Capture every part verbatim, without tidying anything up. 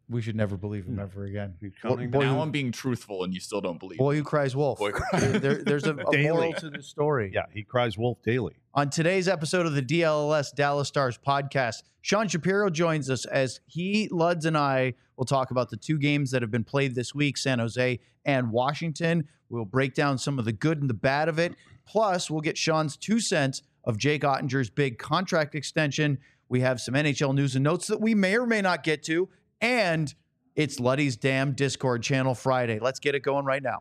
we should never believe him ever again. Boy, Now who, I'm being truthful, and you still don't believe. boy me. who cries wolf. Boy cries. There, there's a, a moral to the story. Yeah, he cries wolf daily. On today's episode of the D L L S Dallas Stars podcast, Sean Shapiro joins us as he, Luds, and I will talk about the two games that have been played this week, San Jose and Washington. We'll break down some of the good and the bad of it. Plus, we'll get Sean's two cents of Jake Ottinger's big contract extension. We have some N H L news and notes that we may or may not get to. And it's Luddy's Damn Discord Channel Friday. Let's get it going right now.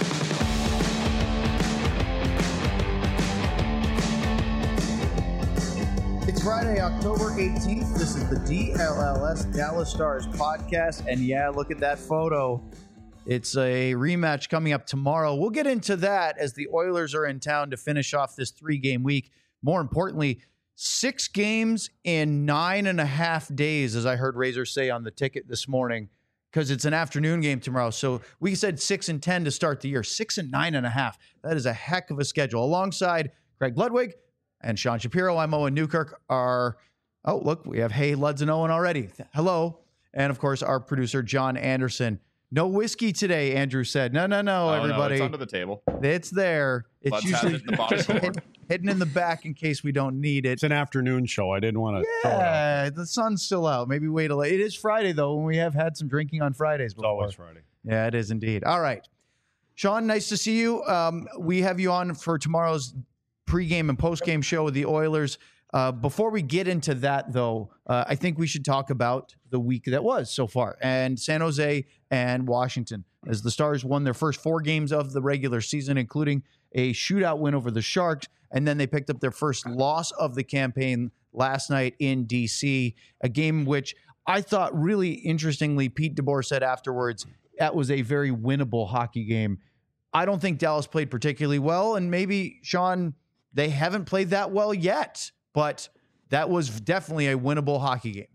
It's Friday, October eighteenth. This is the D L L S Dallas Stars podcast. And yeah, look at that photo. It's a rematch coming up tomorrow. We'll get into that as the Oilers are in town to finish off this three-game week. More importantly, six games in nine and a half days, as I heard Razor say on the ticket this morning, because it's an afternoon game tomorrow. So we said six and ten to start the year. Six and nine and a half. That is a heck of a schedule. Alongside Craig Ludwig and Sean Shapiro, I'm Owen Newkirk. Our, oh, look, we have Hey, Luds and Owen already. Hello. And, of course, our producer, John Anderson. No whiskey today, Andrew said. No, no, no, Oh, everybody. No, it's under the table. It's there. It's Luds usually has it in the bottom drawer. hid- hidden in the back in case we don't need it. It's an afternoon show. I didn't want to throw it out. Yeah, the sun's still out. Maybe wait a little. It is Friday, though, and we have had some drinking on Fridays It's before. always Friday. Yeah, it is indeed. All right. Sean, nice to see you. Um, we have you on for tomorrow's pregame and postgame show with the Oilers. Uh, before we get into that, though, uh, I think we should talk about the week that was so far, and San Jose and Washington, as the Stars won their first four games of the regular season, including a shootout win over the Sharks, and then they picked up their first loss of the campaign last night in D C, a game which I thought really interestingly, Pete DeBoer said afterwards, that was a very winnable hockey game. I don't think Dallas played particularly well, and maybe, Sean, they haven't played that well yet, but that was definitely a winnable hockey game.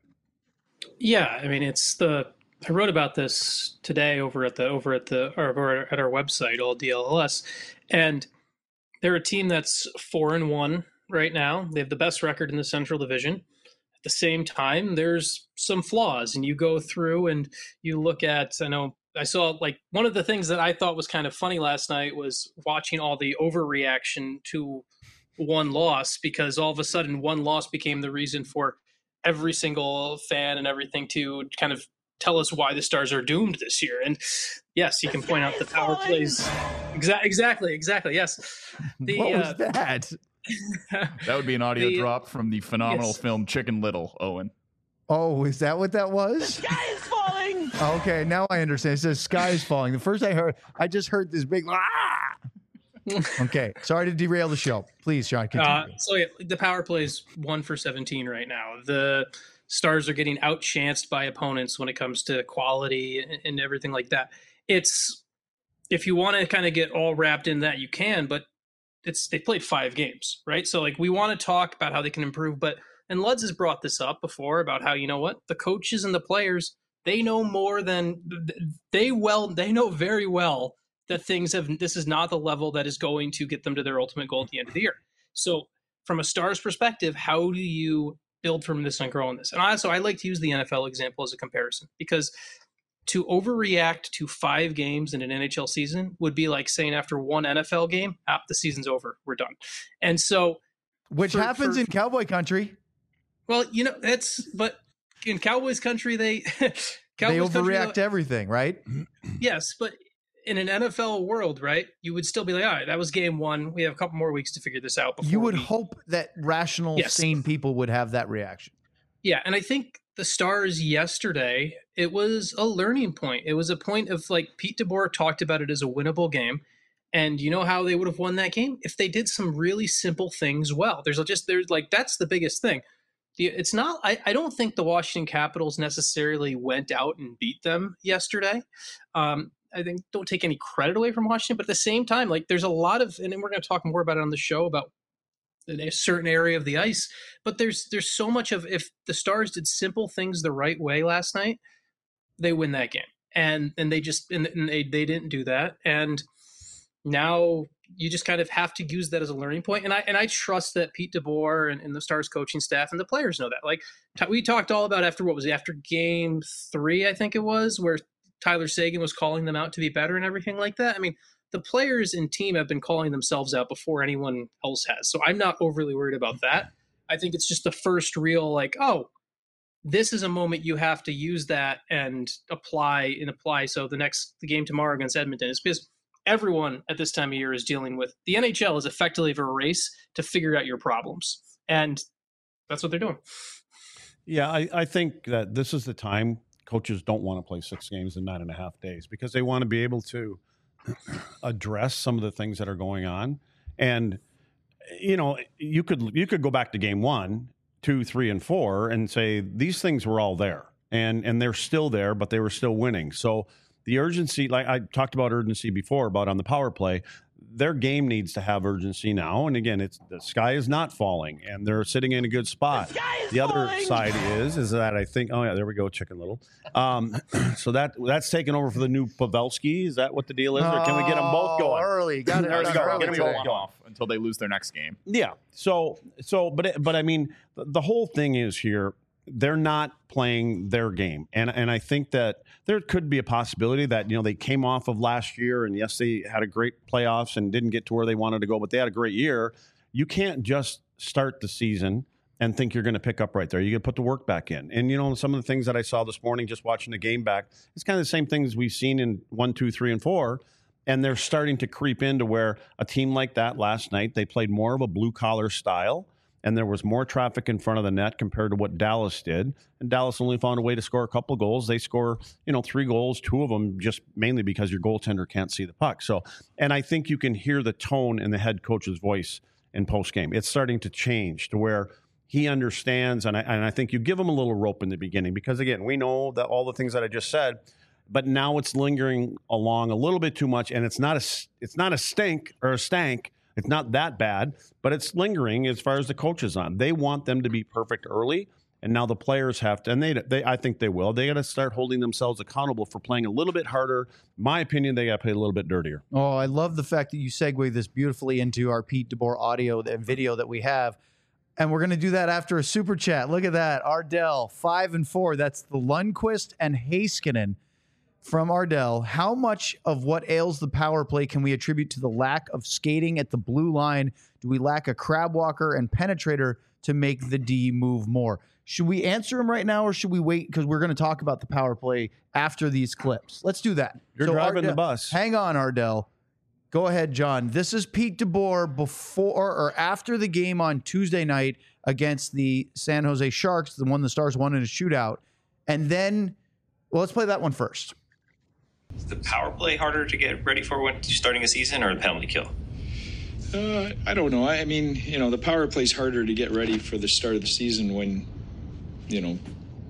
Yeah, I mean, it's the I wrote about this today over at the over at the or over at our website, all D L L S, and they're a team that's four and one right now. They have the best record in the Central Division. At the same time, there's some flaws, and you go through and you look at. I know I saw like one of the things that I thought was kind of funny last night was watching all the overreaction to one loss, because all of a sudden one loss became the reason for every single fan and everything to kind of tell us why the Stars are doomed this year. And yes, you can point out the power plays. Exa- exactly, exactly. Yes. The, what was uh, that? That would be an audio The- drop from the phenomenal yes. film Chicken Little, Owen. Oh, is that what that was? The sky is falling. Okay, now I understand. It says sky is falling. The first I heard, I just heard this big, ah! Okay, sorry to derail the show. Please, Sean, continue. Uh, so yeah, the power play is one for seventeen right now. The Stars are getting outchanced by opponents when it comes to quality and, and everything like that. It's if you want to kind of get all wrapped in that, you can, but it's they played five games, right? So like we want to talk about how they can improve, but and Luds has brought this up before about how, you know what, the coaches and the players, they know more than they well they know very well that things have, this is not the level that is going to get them to their ultimate goal at the end of the year. So from a Stars perspective, how do you build from this and grow on this? And also, I like to use the N F L example as a comparison, because to overreact to five games in an N H L season would be like saying after one N F L game, ah, the season's over, we're done. And so, Which for- happens for- in Cowboy country. well, you know, that's, but in Cowboys country, they, They Cowboys country, overreact to everything, right? yes, but in an N F L world, right, you would still be like, all right, that was game one. We have a couple more weeks to figure this out. Before You would we... hope that rational, Yes. sane people would have that reaction. Yeah, and I think the Stars yesterday, it was a learning point. It was a point of, like, Pete DeBoer talked about it as a winnable game. And you know how they would have won that game? If they did some really simple things well. There's just, there's like, that's the biggest thing. The, it's not, I, I don't think the Washington Capitals necessarily went out and beat them yesterday. Um, I think don't take any credit away from Washington, but at the same time, like there's a lot of, and then we're going to talk more about it on the show about a certain area of the ice, but there's, there's so much of, if the Stars did simple things the right way last night, they win that game. And, and they just, and, and they, they didn't do that. And now you just kind of have to use that as a learning point. And I and I trust that Pete DeBoer and, and the Stars coaching staff and the players know that. Like t- we talked all about after what was it, after game three, I think it was, where Tyler Seguin was calling them out to be better and everything like that. I mean, the players and team have been calling themselves out before anyone else has. So I'm not overly worried about that. I think it's just the first real like, oh, this is a moment you have to use that and apply and apply. So the next the game tomorrow against Edmonton is because everyone at this time of year is dealing with the N H L is effectively a race to figure out your problems. And that's what they're doing. Yeah, I, I think that this is the time coaches don't want to play six games in nine and a half days because they want to be able to address some of the things that are going on. And, you know, you could you could go back to game one, two, three, and four and say these things were all there. And and they're still there, but they were still winning. So the urgency, like I talked about urgency before, about on the power play, their game needs to have urgency now. And again, it's the sky is not falling, and they're sitting in a good spot. The, the other side is is that I think, oh yeah, there we go, Chicken Little. Um, so that that's taken over for the new Pavelski. Is that what the deal is, or can we get them both going early? Got it. There we go. Early. Get them both going off until they lose their next game. Yeah. So so, but it, but I mean, the, the whole thing is here. They're not playing their game. And and I think that there could be a possibility that, you know, they came off of last year and yes, they had a great playoffs and didn't get to where they wanted to go, but they had a great year. You can't just start the season and think you're going to pick up right there. You got to put the work back in. And, you know, some of the things that I saw this morning, just watching the game back, it's kind of the same things we've seen in one, two, three, and four. And they're starting to creep into where a team like that last night, they played more of a blue collar style. And there was more traffic in front of the net compared to what Dallas did. And Dallas only found a way to score a couple of goals. They score, you know, three goals, two of them just mainly because your goaltender can't see the puck. So, and I think you can hear the tone in the head coach's voice in postgame. It's starting to change to where he understands. And I, and I think you give him a little rope in the beginning because, again, we know that all the things that I just said, but now it's lingering along a little bit too much. And it's not a, it's not a stink or a stank. It's not that bad, but it's lingering as far as the coaches on. They want them to be perfect early, and now the players have to, and they, they I think they will. They got to start holding themselves accountable for playing a little bit harder. In my opinion, they got to play a little bit dirtier. Oh, I love the fact that you segue this beautifully into our Pete DeBoer audio and video that we have. And we're going to do that after a super chat. Look at that. Ardell, five and four. That's the Lundqvist and Heiskanen. From Ardell, how much of what ails the power play can we attribute to the lack of skating at the blue line? Do we lack a crab walker and penetrator to make the D move more? Should we answer him right now or should we wait? Because we're going to talk about the power play after these clips. Let's do that. You're so driving Ardell, the bus. Hang on, Ardell. Go ahead, John. This is Pete DeBoer before or after the game on Tuesday night against the San Jose Sharks, the one the Stars won in a shootout. And then, well, let's play that one first. Is the power play harder to get ready for when you're starting a season or the penalty kill? Uh, I don't know. I mean, you know, the power play's harder to get ready for the start of the season when, you know,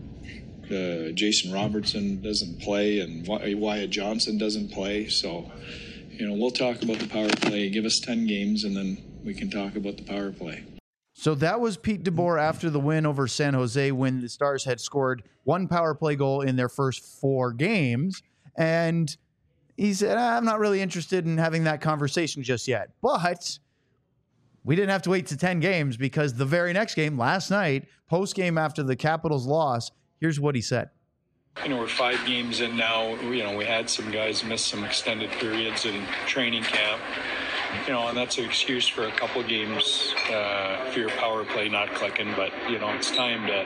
uh, Jason Robertson doesn't play and Wyatt Johnson doesn't play. So, you know, we'll talk about the power play. Give us ten games and then we can talk about the power play. So that was Pete DeBoer after the win over San Jose when the Stars had scored one power play goal in their first four games. And he said, I'm not really interested in having that conversation just yet. But we didn't have to wait to ten games because the very next game, last night, post-game after the Capitals loss, here's what he said. You know, we're five games in now. You know, we had some guys miss some extended periods in training camp. You know, and that's an excuse for a couple games uh, for your power play not clicking. But, you know, it's time to...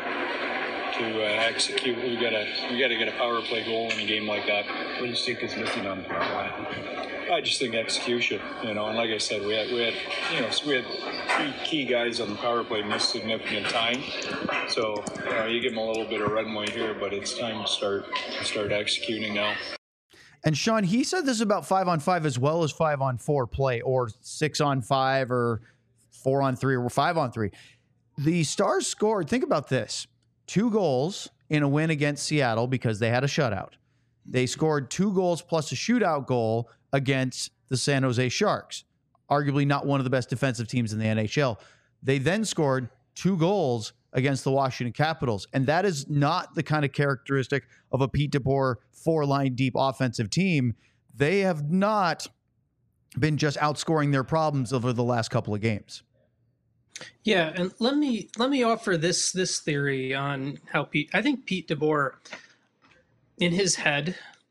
to uh, execute. We gotta we gotta get a power play goal in a game like that. What do you think is missing on the power play? I just think execution, you know, and like I said, we had we had you know we had three key guys on the power play miss significant time. So you know, you give them a little bit of runway here, but it's time to start to start executing now. And Sean, he said this about five on five as well as five on four play, or six on five, or four on three, or five on three. The Stars scored. Think about this. Two goals in a win against Seattle because they had a shutout. They scored two goals plus a shootout goal against the San Jose Sharks, arguably not one of the best defensive teams in the N H L. They then scored two goals against the Washington Capitals, and that is not the kind of characteristic of a Pete DeBoer four-line deep offensive team. They have not been just outscoring their problems over the last couple of games. Yeah, and let me let me offer this this theory on how Pete. I think Pete DeBoer, in his head,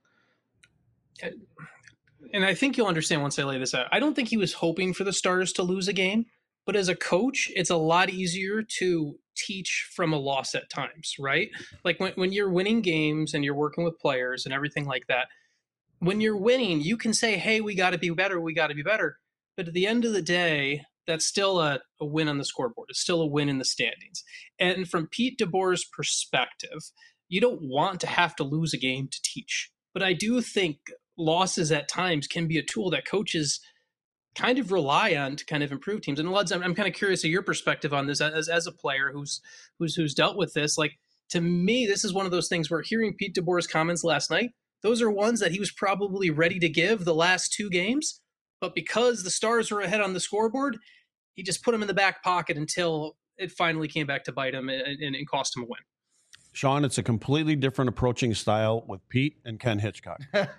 and I think you'll understand once I lay this out. I don't think he was hoping for the Stars to lose a game, but as a coach, it's a lot easier to teach from a loss at times, right? Like when when you're winning games and you're working with players and everything like that. When you're winning, you can say, "Hey, we got to be better. We got to be better." But at the end of the day, that's still a, a win on the scoreboard. It's still a win in the standings. And from Pete DeBoer's perspective, you don't want to have to lose a game to teach. But I do think losses at times can be a tool that coaches kind of rely on to kind of improve teams. And Luds, I'm, I'm kind of curious of your perspective on this as, as a player who's who's who's dealt with this. Like, to me, this is one of those things where hearing Pete DeBoer's comments last night, those are ones that he was probably ready to give the last two games. But because the Stars were ahead on the scoreboard, he just put them in the back pocket until it finally came back to bite him and, and, and cost him a win. Sean, it's a completely different approaching style with Pete and Ken Hitchcock.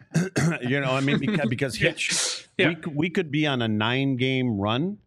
You know, I mean, because, because Hitch, Yeah. we, we could be on a nine-game run,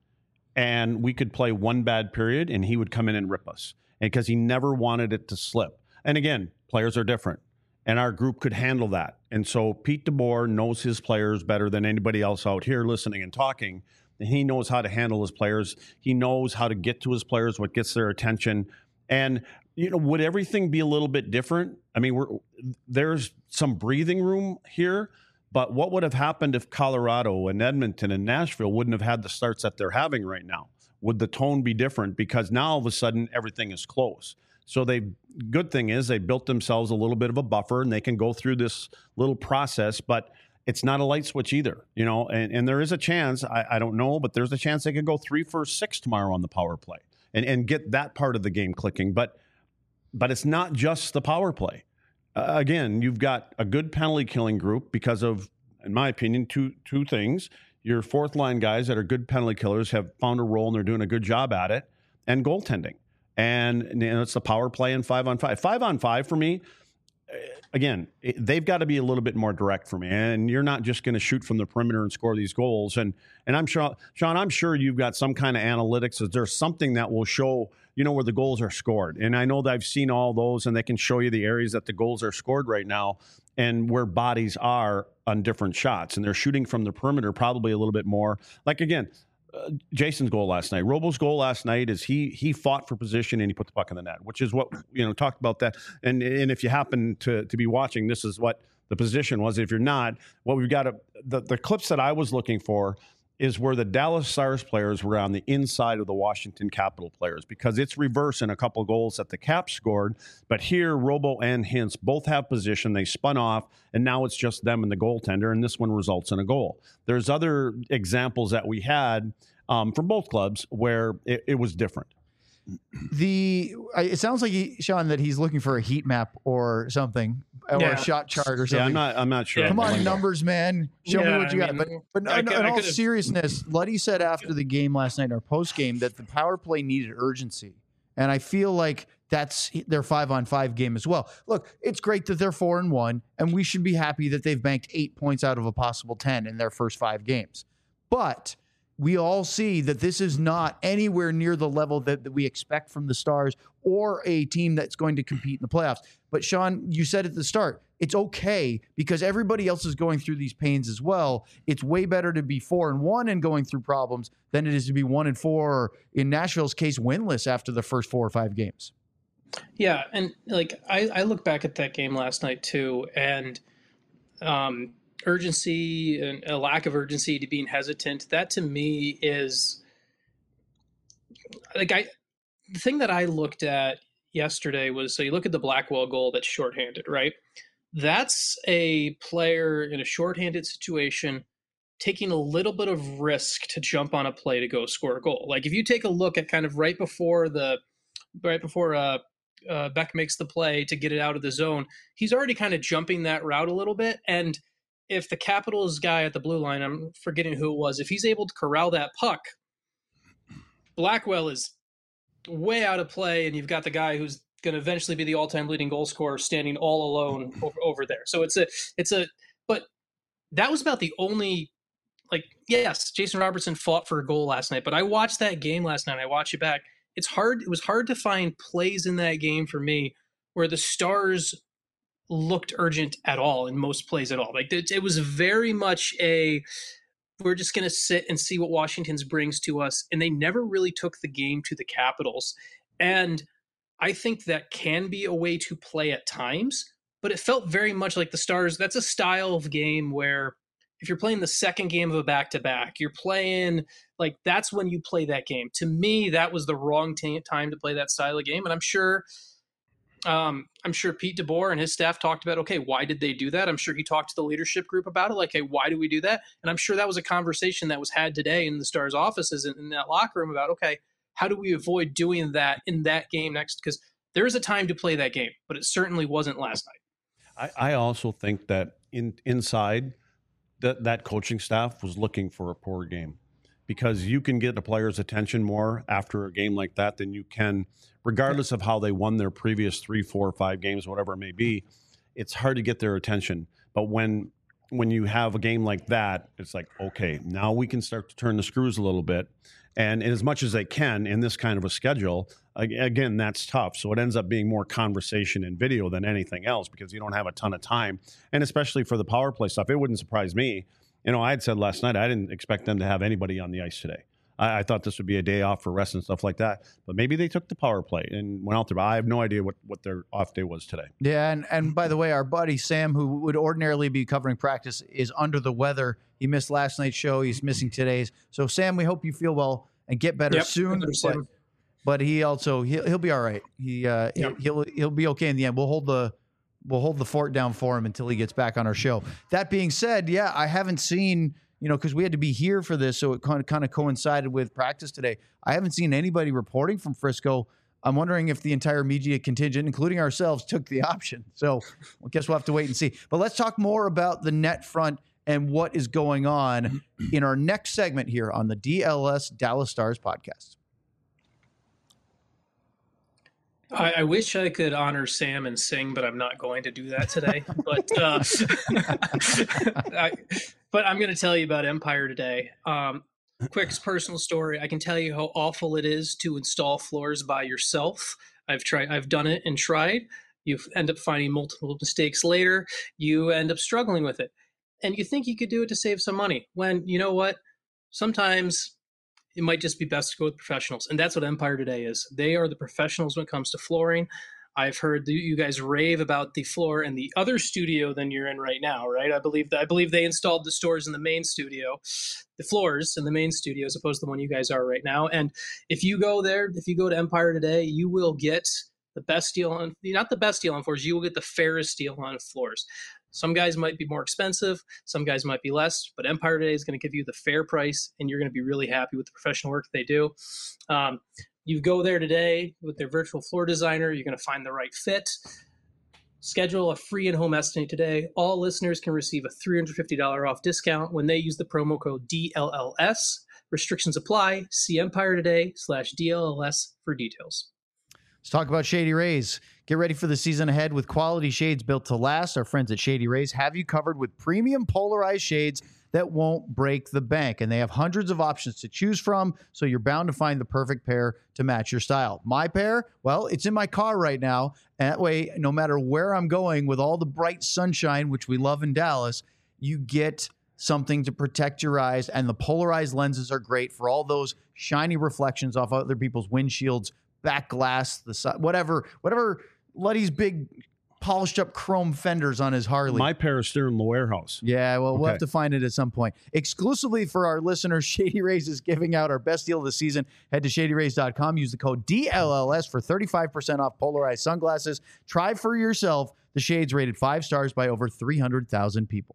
and we could play one bad period, and he would come in and rip us. And because he never wanted it to slip. And again, players are different. And our group could handle that. And so Pete DeBoer knows his players better than anybody else out here listening and talking. And he knows how to handle his players. He knows how to get to his players, what gets their attention. And, you know, would everything be a little bit different? I mean, we're, there's some breathing room here. But what would have happened if Colorado and Edmonton and Nashville wouldn't have had the starts that they're having right now? Would the tone be different? Because now all of a sudden everything is close. So they, good thing is they built themselves a little bit of a buffer, and they can go through this little process, but it's not a light switch either, you know, and, and there is a chance, I, I don't know, but there's a chance they could go three for six tomorrow on the power play and, and get that part of the game clicking. But, but it's not just the power play. Uh, again, you've got a good penalty killing group because of, in my opinion, two, two things. Your fourth line guys that are good penalty killers have found a role and they're doing a good job at it, and goaltending. And you know, it's the power play and five on five. Five on five for me, again, it, they've got to be a little bit more direct for me. And you're not just going to shoot from the perimeter and score these goals. And and I'm sure, Sean, I'm sure you've got some kind of analytics. Is there something that will show, you know, where the goals are scored? And I know that I've seen all those, and they can show you the areas that the goals are scored right now and where bodies are on different shots. And they're shooting from the perimeter probably a little bit more. Like, again, Uh, Jason's goal last night. Robo's goal last night is he he fought for position and he put the puck in the net, which is what, you know, talked about that. And and if you happen to to be watching, this is what the position was. If you're not, what we've got to, the, the clips that I was looking for is where the Dallas Stars players were on the inside of the Washington Capital players, because it's reverse in a couple goals that the Caps scored. But here, Robo and Hintz both have position. They spun off, and now it's just them and the goaltender, and this one results in a goal. There's other examples that we had um, from both clubs where it, it was different. The it sounds like he, Sean, that he's looking for a heat map or something, or Yeah. a shot chart or something. Yeah, I'm not. I'm not sure. Yeah. Come on, Like- numbers, man. Show me Yeah, what you I got. mean, But but I in, could- in I all could've- seriousness, Luddy said after the game last night, our post game, that the power play needed urgency, and I feel like that's their five on five game as well. Look, it's great that they're four and one, and we should be happy that they've banked eight points out of a possible ten in their first five games. But we all see that this is not anywhere near the level that, that we expect from the Stars or a team that's going to compete in the playoffs. But Sean, you said at the start, it's okay because everybody else is going through these pains as well. It's way better to be four and one and going through problems than it is to be one and four, or in Nashville's case, winless after the first four or five games. Yeah, and like I, I look back at that game last night too, and um, urgency and a lack of urgency to being hesitant. That to me is like I. The thing that I looked at yesterday was, so you look at the Blackwell goal that's shorthanded, right? That's a player in a shorthanded situation taking a little bit of risk to jump on a play to go score a goal. Like if you take a look at kind of right before the right before uh, uh, Beck makes the play to get it out of the zone, he's already kind of jumping that route a little bit. And if the Capitals guy at the blue line, I'm forgetting who it was, if he's able to corral that puck, Blackwell is way out of play, and you've got the guy who's going to eventually be the all-time leading goal scorer standing all alone over, over there. So it's a, it's a, but that was about the only like, yes, Jason Robertson fought for a goal last night, but I watched that game last night. I watched it back. It's hard. It was hard to find plays in that game for me where the Stars looked urgent at all in most plays at all. Like it, it was very much a, we're just going to sit and see what Washington's brings to us. And they never really took the game to the Capitals. And I think that can be a way to play at times, but it felt very much like the Stars. That's a style of game where if you're playing the second game of a back-to-back, you're playing like that's when you play that game. To me, that was the wrong t- time to play that style of game. And I'm sure, um, I'm sure Pete DeBoer and his staff talked about, okay, why did they do that? I'm sure he talked to the leadership group about it. Like, hey, why do we do that? And I'm sure that was a conversation that was had today in the Stars offices in, in that locker room about, okay, how do we avoid doing that in that game next? Because there is a time to play that game, but it certainly wasn't last night. I, I also think that in inside that that coaching staff was looking for a poor game, because you can get a player's attention more after a game like that than you can, regardless of how they won their previous three, four, five games, whatever it may be. It's hard to get their attention. But when when you have a game like that, it's like, okay, now we can start to turn the screws a little bit. And as much as they can in this kind of a schedule, again, that's tough. So it ends up being more conversation and video than anything else because you don't have a ton of time. And especially for the power play stuff, it wouldn't surprise me. You know, I had said last night I didn't expect them to have anybody on the ice today. I, I thought this would be a day off for rest and stuff like that. But maybe they took the power play and went out there. But I have no idea what, what their off day was today. Yeah, and, and by the way, our buddy Sam, who would ordinarily be covering practice, is under the weather. He missed last night's show. He's missing today's. So, Sam, we hope you feel well and get better yep, soon. But, but he also he'll, he'll be all right. He uh, yep. he'll he'll be okay in the end. We'll hold the we'll hold the fort down for him until he gets back on our show. That being said, yeah, I haven't seen, you know, because we had to be here for this, so it kind of kind of coincided with practice today. I haven't seen anybody reporting from Frisco. I'm wondering if the entire media contingent, including ourselves, took the option. So I guess we'll have to wait and see. But let's talk more about the net front and what is going on in our next segment here on the D L S Dallas Stars podcast. I, I wish I could honor Sam and sing, but I'm not going to do that today. but uh, I, but I'm going to tell you about Empire today. Um, quick personal story. I can tell you how awful it is to install floors by yourself. I've tried. I've done it and tried. You end up finding multiple mistakes later. You end up struggling with it. And you think you could do it to save some money when, you know what, sometimes it might just be best to go with professionals. And that's what Empire today is. They are the professionals when it comes to flooring. I've heard you guys rave about the floor in the other studio than you're in right now, right? I believe that I believe they installed the stores in the main studio, the floors in the main studio as opposed to the one you guys are right now. And if you go there, if you go to Empire today, you will get the best deal on, not the best deal on floors, you will get the fairest deal on floors. Some guys might be more expensive, some guys might be less, but Empire today is going to give you the fair price, and you're going to be really happy with the professional work they do. Um, you go there today with their virtual floor designer, you're going to find the right fit. Schedule a free in-home estimate today. All listeners can receive a three hundred fifty dollars off discount when they use the promo code D L L S. Restrictions apply. See Empire today slash D L L S for details. Let's talk about Shady Rays. Get ready for the season ahead with quality shades built to last. Our friends at Shady Rays have you covered with premium polarized shades that won't break the bank. And they have hundreds of options to choose from, so you're bound to find the perfect pair to match your style. My pair, well, it's in my car right now. And that way, no matter where I'm going with all the bright sunshine, which we love in Dallas, you get something to protect your eyes. And the polarized lenses are great for all those shiny reflections off other people's windshields, back glass, the side, whatever, whatever Luddy's big polished up chrome fenders on his Harley. My pair is still in the warehouse. Yeah, well, okay. We'll have to find it at some point. Exclusively for our listeners, Shady Rays is giving out our best deal of the season. Head to shady rays dot com. Use the code D L L S for thirty-five percent off polarized sunglasses. Try for yourself the shades rated five stars by over three hundred thousand people.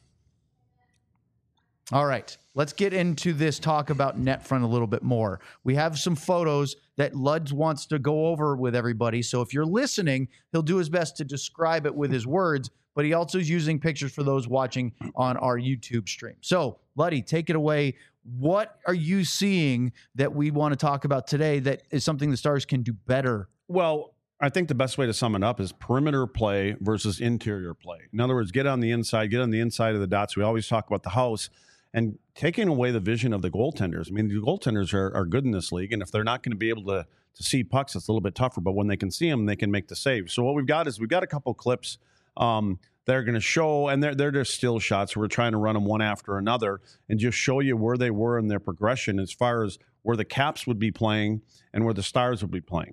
All right, let's get into this talk about NetFront a little bit more. We have some photos that Luds wants to go over with everybody. So if you're listening, he'll do his best to describe it with his words, but he also is using pictures for those watching on our YouTube stream. So, Luddy, take it away. What are you seeing that we want to talk about today that is something the Stars can do better? Well, I think the best way to sum it up is perimeter play versus interior play. In other words, get on the inside, get on the inside of the dots. We always talk about the house. and taking away the vision of the goaltenders. I mean, the goaltenders are, are good in this league, and if they're not going to be able to to see pucks, it's a little bit tougher. But when they can see them, they can make the save. So what we've got is we've got a couple clips um, that are going to show, and they're they're just still shots. We're trying to run them one after another and just show you where they were in their progression as far as where the Caps would be playing and where the Stars would be playing.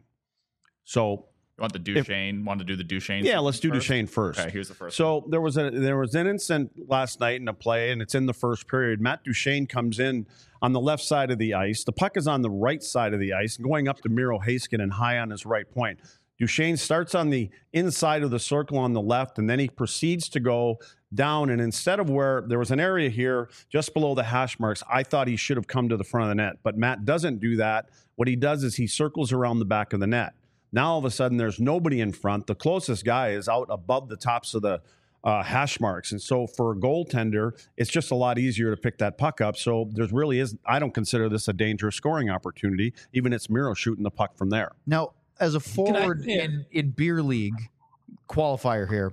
So. You want the Duchesne? If, want to do the Duchesne? Yeah, let's do first? Duchesne first. Okay, here's the first. So one. there was a there was an incident last night in a play, and it's in the first period. Matt Duchesne comes in on the left side of the ice. The puck is on the right side of the ice, going up to Miro Heiskanen high on his right point. Duchesne starts on the inside of the circle on the left, and then he proceeds to go down. And instead of where there was an area here just below the hash marks, I thought he should have come to the front of the net. But Matt doesn't do that. What he does is he circles around the back of the net. Now, all of a sudden, there's nobody in front. The closest guy is out above the tops of the uh, hash marks. And so for a goaltender, it's just a lot easier to pick that puck up. So there's really is, I don't consider this a dangerous scoring opportunity. Even it's Miro shooting the puck from there. Now, as a forward I, yeah. in, in beer league qualifier here,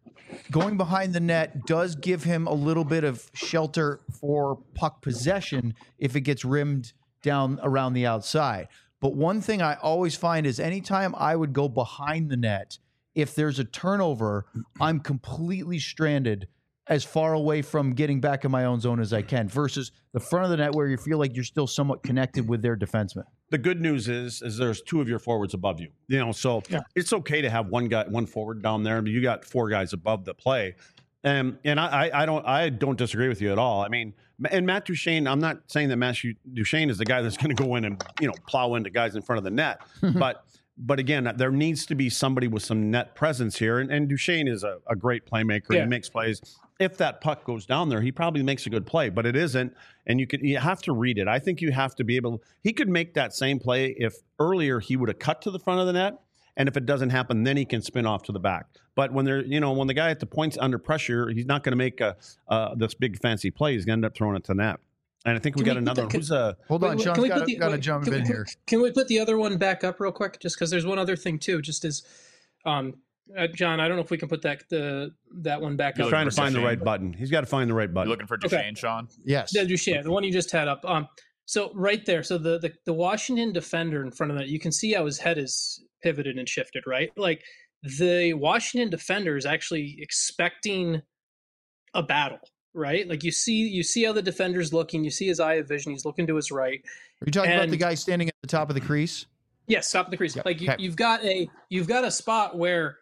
going behind the net does give him a little bit of shelter for puck possession if it gets rimmed down around the outside. But one thing I always find is anytime I would go behind the net, if there's a turnover, I'm completely stranded as far away from getting back in my own zone as I can versus the front of the net where you feel like you're still somewhat connected with their defenseman. The good news is, is there's two of your forwards above you, you know, so yeah. It's okay to have one guy, one forward down there, but you got four guys above the play. Um, and I, I don't, I don't disagree with you at all. I mean, and Matt Duchesne, I'm not saying that Matt Duchesne is the guy that's going to go in and, you know, plow into guys in front of the net, but, but again, there needs to be somebody with some net presence here. And, and Duchesne is a, a great playmaker. Yeah. He makes plays. If that puck goes down there, he probably makes a good play, but it isn't. And you could, you have to read it. I think you have to be able, he could make that same play if earlier he would have cut to the front of the net. And if it doesn't happen, then he can spin off to the back. But when they're, you know, when the guy at the point's under pressure, he's not going to make a uh, this big fancy play. He's going to end up throwing it to net. And I think we can got we another. That, can, who's a hold on, Sean's got to jump in we, here. Can we put the other one back up real quick? Just because there's one other thing too. Just as, um, uh, John, I don't know if we can put that the that one back He's up. He's trying to find Duchesne. the right button. He's got to find the right button. You're looking for Duchesne, okay. Sean? Yes, yeah, Duchesne, the one you just had up. Um, so right there, so the, the the Washington defender in front of that, you can see how his head is pivoted and shifted, right? Like the Washington defender is actually expecting a battle, right? Like you see, you see how the defender's looking. You see his eye of vision. He's looking to his right. Are you talking and, about the guy standing at the top of the crease? Yes, top of the crease. Yep. Like you, okay. you've got a you've got a spot where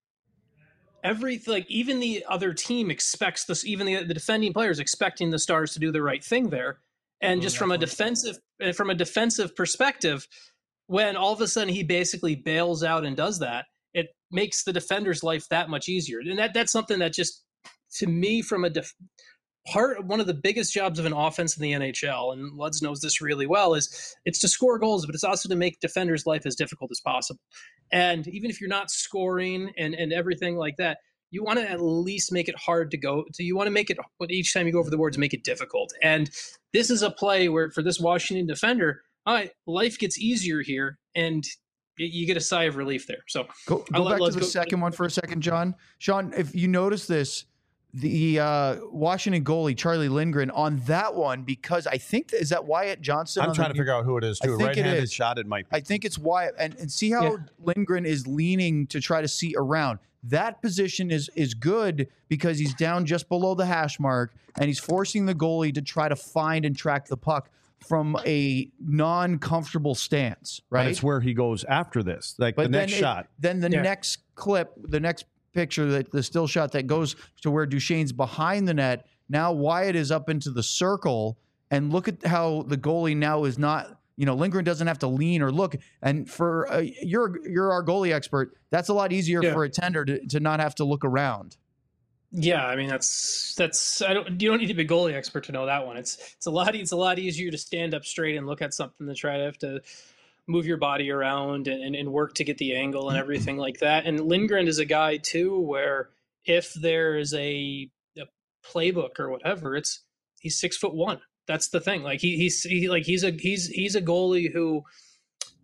every like even the other team expects this. Even the the defending player is expecting the Stars to do the right thing there. And just from a defensive from a defensive perspective, when all of a sudden he basically bails out and does that, it makes the defender's life that much easier. And that that's something that just, to me, from a def- part, one of the biggest jobs of an offense in the N H L, and Luds knows this really well, is it's to score goals, but it's also to make defenders' life as difficult as possible. And even if you're not scoring and, and everything like that, you want to at least make it hard to go to. You want to make it, each time you go over the boards, make it difficult. And this is a play where, for this Washington defender, all right, life gets easier here, and you get a sigh of relief there. So go, go back to the go. second one for a second, John. Sean, if you notice this, the uh, Washington goalie, Charlie Lindgren, on that one, because I think, is that Wyatt Johnson? I'm trying the, to figure out who it is, too. Right-handed shot, it might be. I think it's Wyatt. And, and see how yeah. Lindgren is leaning to try to see around. That position is is good because he's down just below the hash mark, and he's forcing the goalie to try to find and track the puck from a non-comfortable stance, right? But it's where he goes after this, like but the next it, shot. Then the yeah. next clip, the next picture, that the still shot that goes to where Duchesne's behind the net. Now Wyatt is up into the circle, and look at how the goalie now is not, you know, Lindgren doesn't have to lean or look. And for uh, you're you're our goalie expert, that's a lot easier yeah. for a tender to, to not have to look around. Yeah, I mean that's that's I don't you don't need to be a goalie expert to know that one. It's it's a lot it's a lot easier to stand up straight and look at something than try to have to move your body around and, and, and work to get the angle and everything like that. And Lindgren is a guy too where if there's a, a playbook or whatever, it's he's six foot one. That's the thing. Like he he's he, like he's a he's he's a goalie who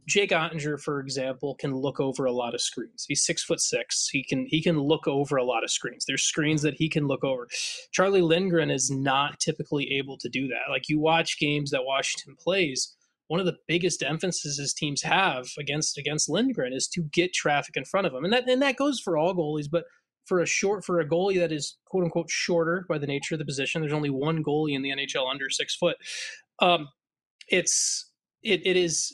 Jake Ottinger, for example, can look over a lot of screens. He's six foot six. He can he can look over a lot of screens. There's screens that he can look over. Charlie Lindgren is not typically able to do that. Like, you watch games that Washington plays, one of the biggest emphases teams have against against Lindgren is to get traffic in front of him, and that and that goes for all goalies, but for a short for a goalie that is quote unquote shorter by the nature of the position, there's only one goalie in the N H L under six foot. Um, it's it it is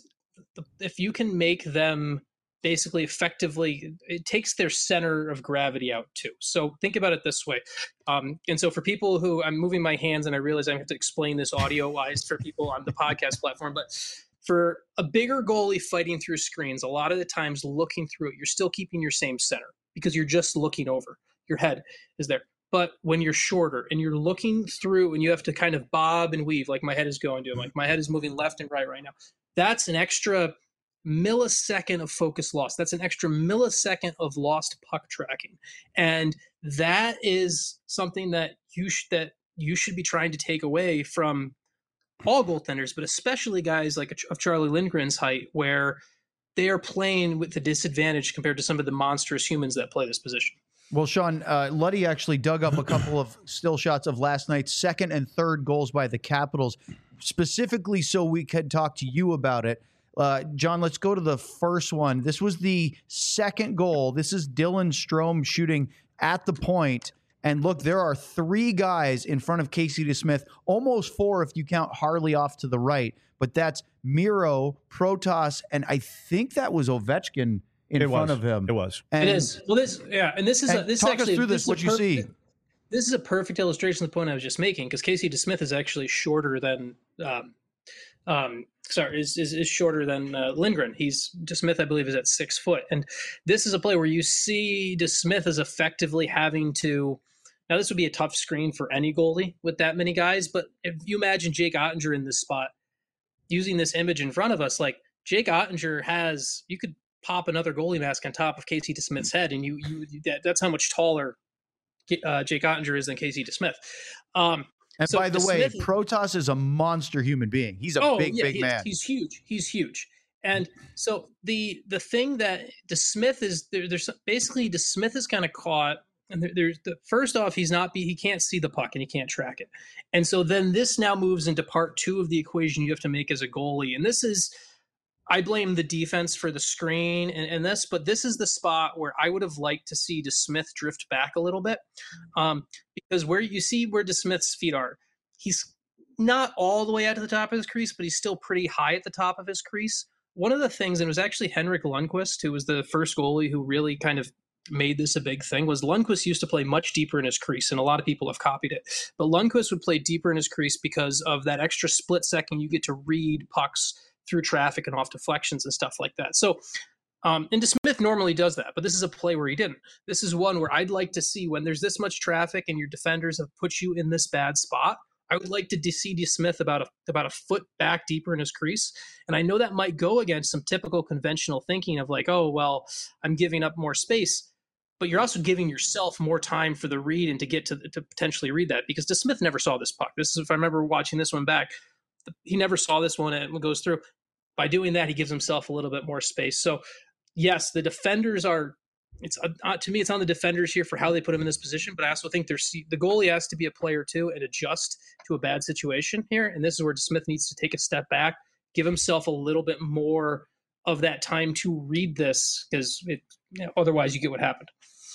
if you can make them basically effectively, it takes their center of gravity out too. So think about it this way. Um, and so for people who, I'm moving my hands and I realize I have to explain this audio wise for people on the podcast platform, but for a bigger goalie fighting through screens, a lot of the times looking through it, you're still keeping your same center because you're just looking over. Your head is there. But when you're shorter and you're looking through and you have to kind of bob and weave, like my head is going to, like my head is moving left and right right now, that's an extra millisecond of focus loss. That's an extra millisecond of lost puck tracking. And that is something that you sh- that you should be trying to take away from all goaltenders, but especially guys like of Charlie Lindgren's height, where they are playing with the disadvantage compared to some of the monstrous humans that play this position. Well, Sean, uh, Luddy actually dug up a couple of still shots of last night's second and third goals by the Capitals, specifically so we could talk to you about it. Uh, John, let's go to the first one. This was the second goal. This is Dylan Strome shooting at the point. And look, there are three guys in front of Casey DeSmith, almost four if you count Harley off to the right. But that's Miro, Protas, and I think that was Ovechkin in it front was. of him. It was. And, it is. Well, this, yeah, and this is and a, this talk actually us through this this. What you see? This is a perfect illustration of the point I was just making, because Casey DeSmith is actually shorter than, um, um, sorry, is, is is shorter than uh, Lindgren. He's DeSmith, I believe, is at six foot, and this is a play where you see DeSmith is effectively having to. Now, this would be a tough screen for any goalie with that many guys, but if you imagine Jake Ottinger in this spot, using this image in front of us, like Jake Ottinger has, you could pop another goalie mask on top of Casey DeSmith's head, and you you that, that's how much taller uh, Jake Ottinger is than Casey DeSmith. Um, and so by the DeSmith way, is, Protas is a monster human being. He's a oh, big, yeah, big he, man. He's huge. He's huge. And so the the thing that DeSmith is there, there's basically DeSmith is kind of caught. And there, there's the first off, he's not be he can't see the puck and he can't track it. And so then this now moves into part two of the equation you have to make as a goalie. And this is, I blame the defense for the screen and, and this, but this is the spot where I would have liked to see DeSmith drift back a little bit. Um, because where you see where DeSmith's feet are, he's not all the way out to the top of his crease, but he's still pretty high at the top of his crease. One of the things, and it was actually Henrik Lundqvist, who was the first goalie who really kind of made this a big thing, was Lundqvist used to play much deeper in his crease, and a lot of people have copied it. But Lundqvist would play deeper in his crease because of that extra split second you get to read pucks through traffic and off deflections and stuff like that. So, um, and DeSmith normally does that, but this is a play where he didn't. This is one where I'd like to see when there's this much traffic and your defenders have put you in this bad spot, I would like to see DeSmith about a, about a foot back deeper in his crease. And I know that might go against some typical conventional thinking of like, oh, well, I'm giving up more space. But you're also giving yourself more time for the read and to get to to potentially read that, because DeSmith never saw this puck. This is, if I remember watching this one back, he never saw this one and it goes through. By doing that, he gives himself a little bit more space. So, yes, the defenders are. It's uh, to me, it's on the defenders here for how they put him in this position. But I also think there's the goalie has to be a player too and adjust to a bad situation here. And this is where DeSmith needs to take a step back, give himself a little bit more of that time to read this, because you know, otherwise you get what happened.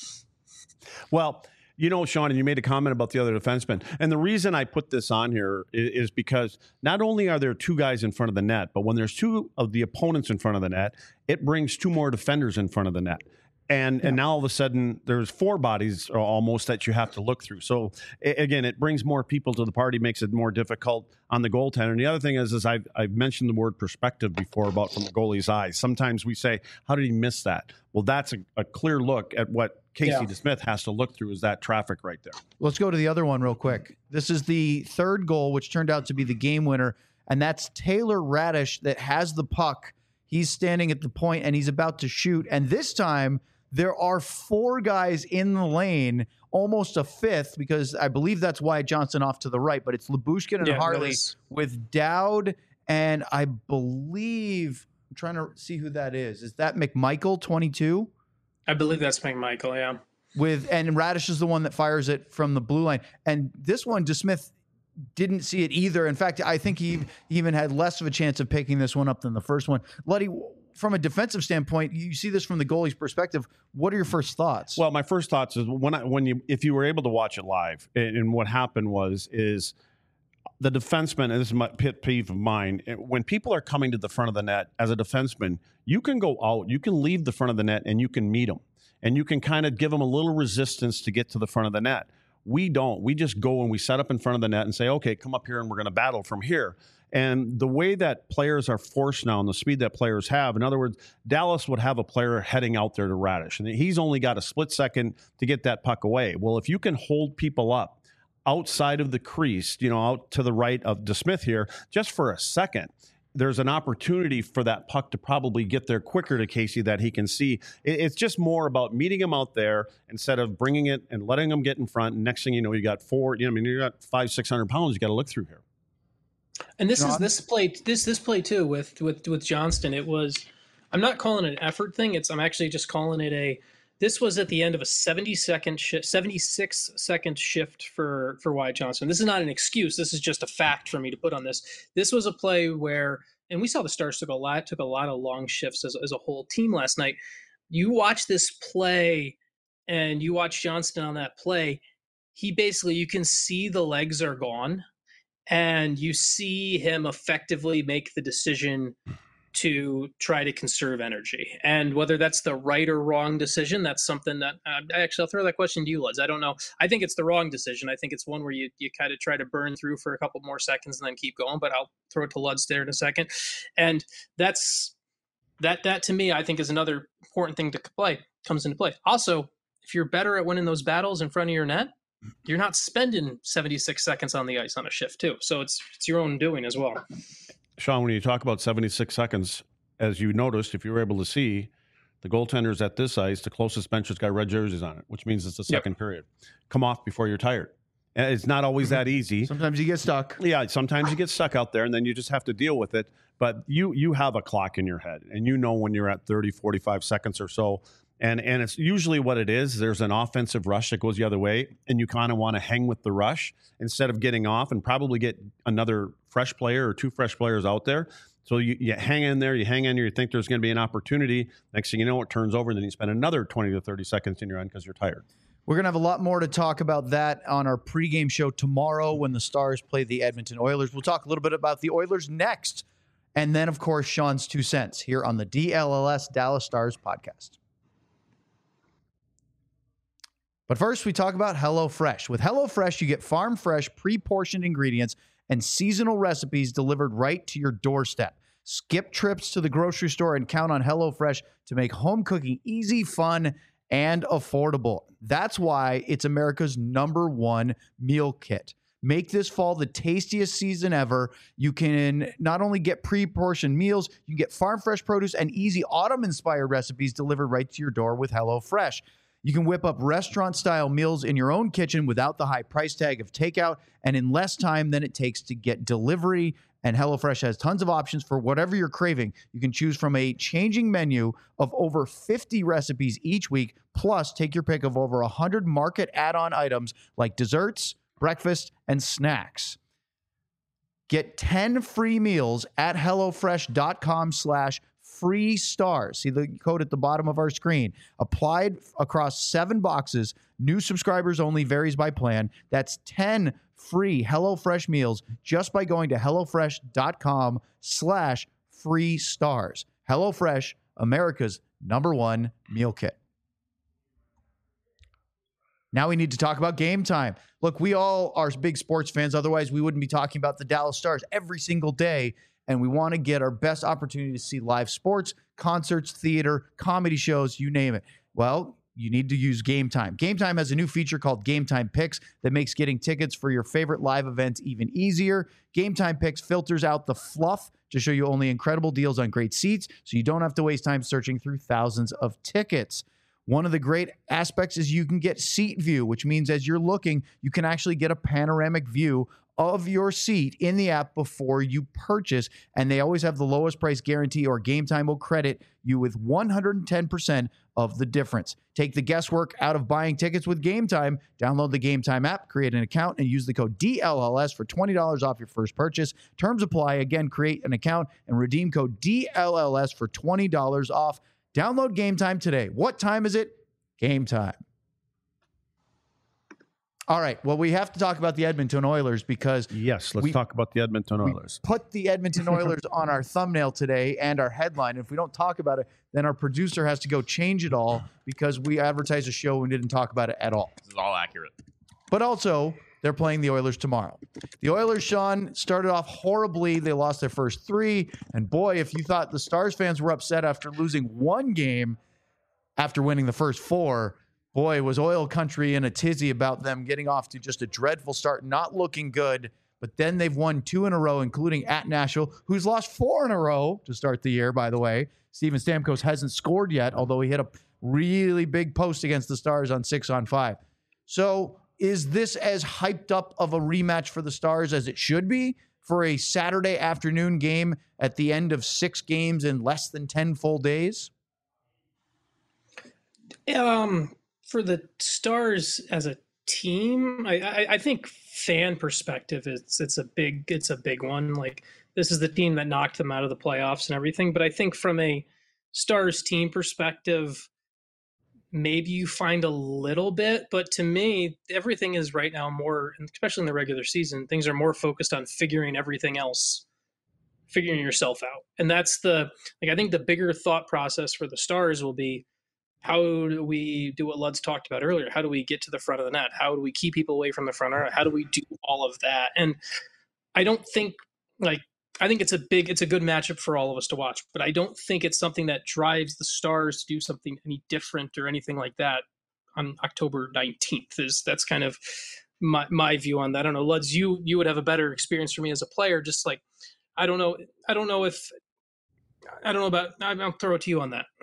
Well, you know, Sean, and you made a comment about the other defenseman. And the reason I put this on here is, is because not only are there two guys in front of the net, but when there's two of the opponents in front of the net, it brings two more defenders in front of the net. And yeah. and now all of a sudden there's four bodies almost that you have to look through. So again, it brings more people to the party, makes it more difficult on the goaltender. And the other thing is, is I've, I've mentioned the word perspective before about from the goalie's eyes. Sometimes we say, how did he miss that? Well, that's a, a clear look at what Casey yeah. DeSmith has to look through is that traffic right there. Let's go to the other one real quick. This is the third goal, which turned out to be the game winner. And that's Taylor Radish that has the puck. He's standing at the point and he's about to shoot. And this time, there are four guys in the lane, almost a fifth, because I believe that's Wyatt Johnson off to the right, but it's Lyubushkin and yeah, Harley with Dowd and I believe I'm trying to see who that is. Is that McMichael, twenty-two? I believe that's McMichael, yeah. With and Radish is the one that fires it from the blue line. And this one, DeSmith didn't see it either. In fact, I think he even had less of a chance of picking this one up than the first one. Luddy, from a defensive standpoint, you see this from the goalie's perspective. What are your first thoughts? Well, my first thoughts is when I, when you if you were able to watch it live, and, and what happened was is the defenseman, and this is my pet peeve of mine, when people are coming to the front of the net as a defenseman, you can go out, you can leave the front of the net, and you can meet them, and you can kind of give them a little resistance to get to the front of the net. We don't. We just go and we set up in front of the net and say, okay, come up here and we're going to battle from here. And the way that players are forced now and the speed that players have, in other words, Dallas would have a player heading out there to Radish, and he's only got a split second to get that puck away. Well, if you can hold people up outside of the crease, you know, out to the right of DeSmith here, just for a second, there's an opportunity for that puck to probably get there quicker to Casey that he can see. It's just more about meeting him out there instead of bringing it and letting him get in front. And next thing you know, you got four, you know, I mean, you got five, six hundred pounds you got to look through here. And this is this play, this this play too with with with Johnston. It was, I'm not calling it an effort thing. It's I'm actually just calling it a. This was at the end of a seventy second shift, seventy-six second shift for for Wyatt Johnston. This is not an excuse. This is just a fact for me to put on this. This was a play where, and we saw the Stars took a lot took a lot of long shifts as as a whole team last night. You watch this play, and you watch Johnston on that play. He basically, you can see the legs are gone. And you see him effectively make the decision to try to conserve energy. And whether that's the right or wrong decision, that's something that uh, I actually, I'll throw that question to you, Luds. I don't know. I think it's the wrong decision. I think it's one where you, you kind of try to burn through for a couple more seconds and then keep going, but I'll throw it to Luds there in a second. And that's, that, that to me, I think is another important thing to play, comes into play. Also, if you're better at winning those battles in front of your net, you're not spending seventy-six seconds on the ice on a shift too. So it's it's your own doing as well. Sean, when you talk about seventy-six seconds, as you noticed, if you were able to see, the goaltenders at this ice, the closest bench has got red jerseys on it, which means it's the second yep. period. Come off before you're tired. And it's not always that easy. Sometimes you get stuck. Yeah, sometimes you get stuck out there, and then you just have to deal with it. But you you have a clock in your head, and you know when you're at thirty, forty-five seconds or so. And and it's usually what it is. There's an offensive rush that goes the other way, and you kind of want to hang with the rush instead of getting off and probably get another fresh player or two fresh players out there. So you, you hang in there, you hang in there, you think there's going to be an opportunity. Next thing you know, it turns over, and then you spend another twenty to thirty seconds in your end because you're tired. We're going to have a lot more to talk about that on our pregame show tomorrow when the Stars play the Edmonton Oilers. We'll talk a little bit about the Oilers next. And then, of course, Sean's two cents here on the D L L S Dallas Stars podcast. But first, we talk about HelloFresh. With HelloFresh, you get farm-fresh, pre-portioned ingredients and seasonal recipes delivered right to your doorstep. Skip trips to the grocery store and count on HelloFresh to make home cooking easy, fun, and affordable. That's why it's America's number one meal kit. Make this fall the tastiest season ever. You can not only get pre-portioned meals, you can get farm-fresh produce and easy autumn-inspired recipes delivered right to your door with HelloFresh. You can whip up restaurant-style meals in your own kitchen without the high price tag of takeout and in less time than it takes to get delivery. And HelloFresh has tons of options for whatever you're craving. You can choose from a changing menu of over fifty recipes each week, plus take your pick of over one hundred market add-on items like desserts, breakfast, and snacks. Get ten free meals at HelloFresh.com slash free stars. See the code at the bottom of our screen. Applied across seven boxes. New subscribers only, varies by plan. That's ten free HelloFresh meals just by going to HelloFresh.com slash free stars. HelloFresh, America's number one meal kit. Now we need to talk about Game Time. Look, we all are big sports fans. Otherwise, we wouldn't be talking about the Dallas Stars every single day. And we want to get our best opportunity to see live sports, concerts, theater, comedy shows, you name it. Well, you need to use Game Time. Game Time has a new feature called Game Time Picks that makes getting tickets for your favorite live events even easier. Game Time Picks filters out the fluff to show you only incredible deals on great seats, so you don't have to waste time searching through thousands of tickets. One of the great aspects is you can get seat view, which means as you're looking, you can actually get a panoramic view of your seat in the app before you purchase. And they always have the lowest price guarantee, or Game Time will credit you with one hundred ten percent of the difference. Take the guesswork out of buying tickets with Game Time. Download the Game Time app, create an account, and use the code D L L S for twenty dollars off your first purchase. Terms apply. Again, create an account and redeem code D L L S for twenty dollars off. Download Game Time today. What time is it? Game Time. All right. Well, we have to talk about the Edmonton Oilers because Yes, let's we- talk about the Edmonton we Oilers. put the Edmonton Oilers on our thumbnail today and our headline. If we don't talk about it, then our producer has to go change it all because we advertised a show and didn't talk about it at all. This is all accurate. But also, they're playing the Oilers tomorrow. The Oilers, Sean, started off horribly. They lost their first three. And boy, if you thought the Stars fans were upset after losing one game after winning the first four, boy, was Oil Country in a tizzy about them getting off to just a dreadful start, not looking good. But then they've won two in a row, including at Nashville, who's lost four in a row to start the year, by the way. Steven Stamkos hasn't scored yet, although he hit a really big post against the Stars on six on five. So is this as hyped up of a rematch for the Stars as it should be for a Saturday afternoon game at the end of six games in less than ten full days? Um, for the Stars as a team, I, I, I think fan perspective, it's it's a big it's a big one. Like, this is the team that knocked them out of the playoffs and everything. But I think from a Stars team perspective, maybe you find a little bit. But to me, everything is right now more, especially in the regular season, things are more focused on figuring everything else, figuring yourself out. And that's the, like, I think the bigger thought process for the Stars will be, how do we do what Lud's talked about earlier? How do we get to the front of the net? How do we keep people away from the front? How do we do all of that? And I don't think, like, I think it's a big, it's a good matchup for all of us to watch, but I don't think it's something that drives the Stars to do something any different or anything like that on October nineteenth. Is that's kind of my, my view on that. I don't know, Luds, you, you would have a better experience for me as a player. Just like, I don't know. I don't know if, I don't know about, I'll throw it to you on that.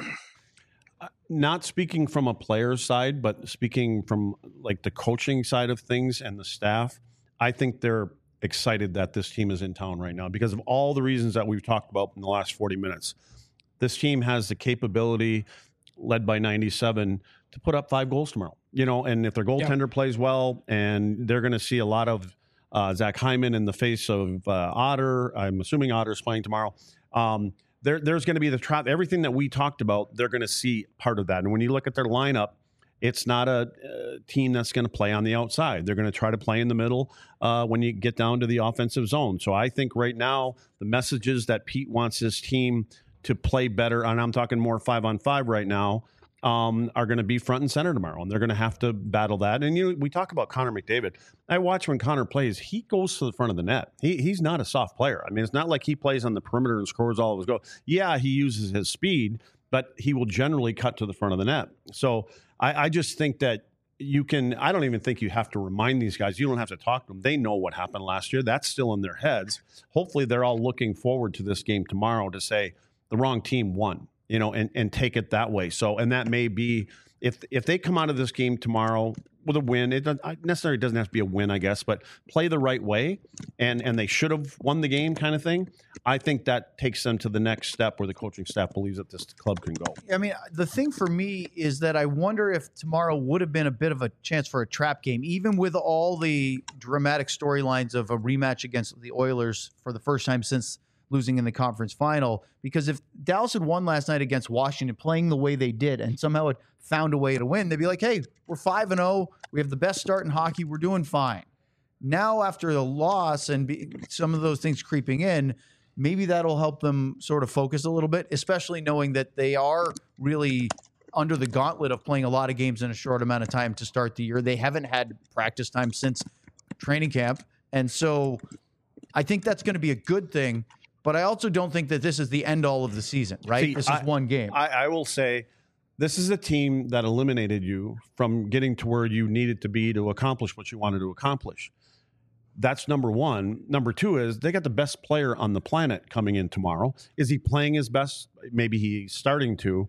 Not speaking from a player's side, but speaking from like the coaching side of things and the staff, I think they're excited that this team is in town right now because of all the reasons that we've talked about in the last forty minutes. This team has the capability, led by ninety-seven, to put up five goals tomorrow. You know, and if their goaltender yeah. plays well, and they're going to see a lot of uh, Zach Hyman in the face of uh, Otter. I'm assuming Otter's playing tomorrow. Um, There, there's going to be the trap. Everything that we talked about, they're going to see part of that. And when you look at their lineup, it's not a, a team that's going to play on the outside. They're going to try to play in the middle uh, when you get down to the offensive zone. So I think right now the messages that Pete wants his team to play better, and I'm talking more five on five right now, um, are going to be front and center tomorrow, and they're going to have to battle that. And you know, we talk about Connor McDavid. I watch when Connor plays; he goes to the front of the net. He he's not a soft player. I mean, it's not like he plays on the perimeter and scores all of his goals. Yeah, he uses his speed, but he will generally cut to the front of the net. So I, I just think that you can. I don't even think you have to remind these guys. You don't have to talk to them. They know what happened last year. That's still in their heads. Hopefully, they're all looking forward to this game tomorrow to say the wrong team won. You know, and, and take it that way. So, and that may be, if if they come out of this game tomorrow with a win, it doesn't, necessarily doesn't have to be a win, I guess, but play the right way, and and they should have won the game kind of thing. I think that takes them to the next step where the coaching staff believes that this club can go. I mean, the thing for me is that I wonder if tomorrow would have been a bit of a chance for a trap game, even with all the dramatic storylines of a rematch against the Oilers for the first time since losing in the conference final, because if Dallas had won last night against Washington, playing the way they did, and somehow had found a way to win, they'd be like, hey, we're five and oh. We have the best start in hockey. We're doing fine. Now, after the loss and be, some of those things creeping in, maybe that'll help them sort of focus a little bit, especially knowing that they are really under the gauntlet of playing a lot of games in a short amount of time to start the year. They haven't had practice time since training camp. And so I think that's going to be a good thing. But I also don't think that this is the end all of the season, right? See, this is I, one game. I, I will say this is a team that eliminated you from getting to where you needed to be to accomplish what you wanted to accomplish. That's number one. Number two is they got the best player on the planet coming in tomorrow. Is he playing his best? Maybe he's starting to.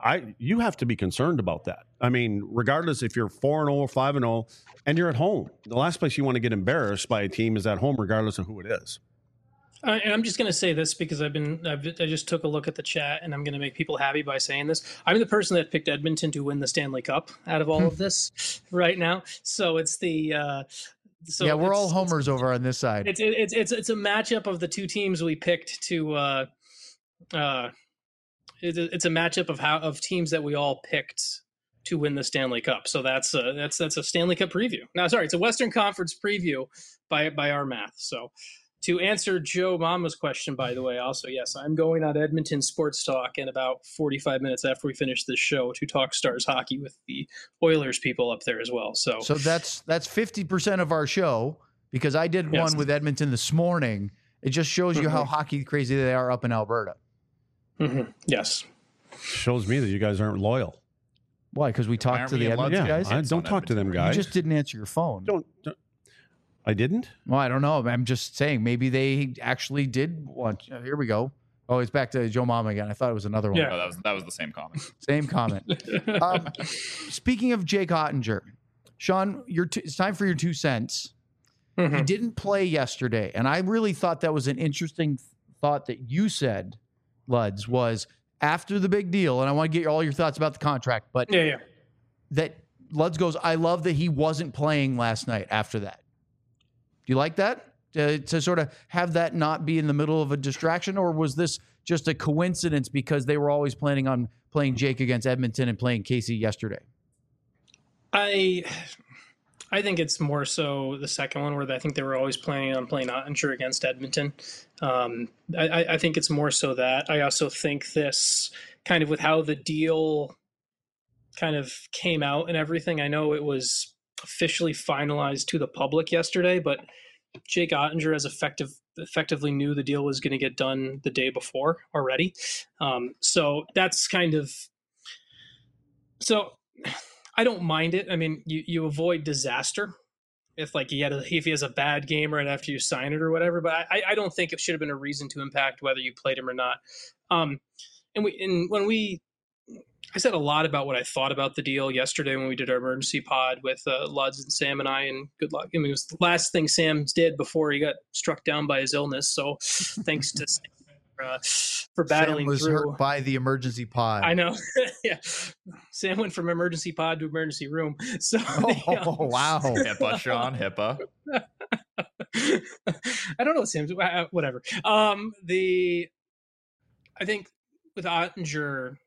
I you have to be concerned about that. I mean, regardless if you're four and oh or five and oh and you're at home, the last place you want to get embarrassed by a team is at home, regardless of who it is. Uh, and I'm just going to say this because I've been I've, I just took a look at the chat, and I'm going to make people happy by saying this. I'm the person that picked Edmonton to win the Stanley Cup out of all of this right now. So it's the uh, so yeah, we're it's, all homers over on this side. It's it's it's it's a matchup of the two teams we picked to. Uh, uh, it's a, it's a matchup of how of teams that we all picked to win the Stanley Cup. So that's a, that's that's a Stanley Cup preview. No, sorry, it's a Western Conference preview by by our math. So. To answer Joe Mama's question, by the way, also, yes, I'm going on Edmonton Sports Talk in about forty-five minutes after we finish this show to talk Stars hockey with the Oilers people up there as well. So, so that's that's fifty percent of our show, because I did Yes. one with Edmonton this morning. It just shows you how hockey crazy they are up in Alberta. mhm, yes. Shows me that you guys aren't loyal. Why? Because we Why talked aren't to we the in Lutz? Edmonton Yeah, guys. I It's don't on talk to them Edmonton. You guys. just didn't answer your phone. don't, don't. I didn't. Well, I don't know. I'm just saying maybe they actually did want. uh, Here we go. Oh, it's back to Joe Mama again. I thought it was another one. Yeah. Oh, that was that was the same comment. Same comment. um, speaking of Jake Ottinger, Sean, your t- it's time for your two cents. He Mhm. didn't play yesterday, and I really thought that was an interesting thought that you said, Luds, was after the big deal, and I want to get all your thoughts about the contract, but Yeah, yeah. that Luds goes, I love that he wasn't playing last night after that. Do you like that? To, to sort of have that not be in the middle of a distraction, or was this just a coincidence because they were always planning on playing Jake against Edmonton and playing Casey yesterday? I I think it's more so the second one where I think they were always planning on playing Ottinger against Edmonton. Um, I, I think it's more so that. I also think this kind of with how the deal kind of came out and everything. I know it was officially finalized to the public yesterday, but Jake Ottinger as effective effectively knew the deal was going to get done the day before already. Um, so that's kind of so. I don't mind it. I mean, you, you avoid disaster if like he had a, if he has a bad game right after you sign it or whatever. But I, I don't think it should have been a reason to impact whether you played him or not. Um, and we and when we, I said a lot about what I thought about the deal yesterday when we did our emergency pod with uh, Luds and Sam and I. And good luck. I mean, it was the last thing Sam did before he got struck down by his illness. So thanks to Sam for, uh, for battling Sam was through. hurt by the emergency pod. I know. Yeah. Sam went from emergency pod to emergency room. So Oh, the, um, wow. HIPAA, Sean, HIPAA. I don't know, Sam. uh, Whatever. Um, the I think with Ottinger,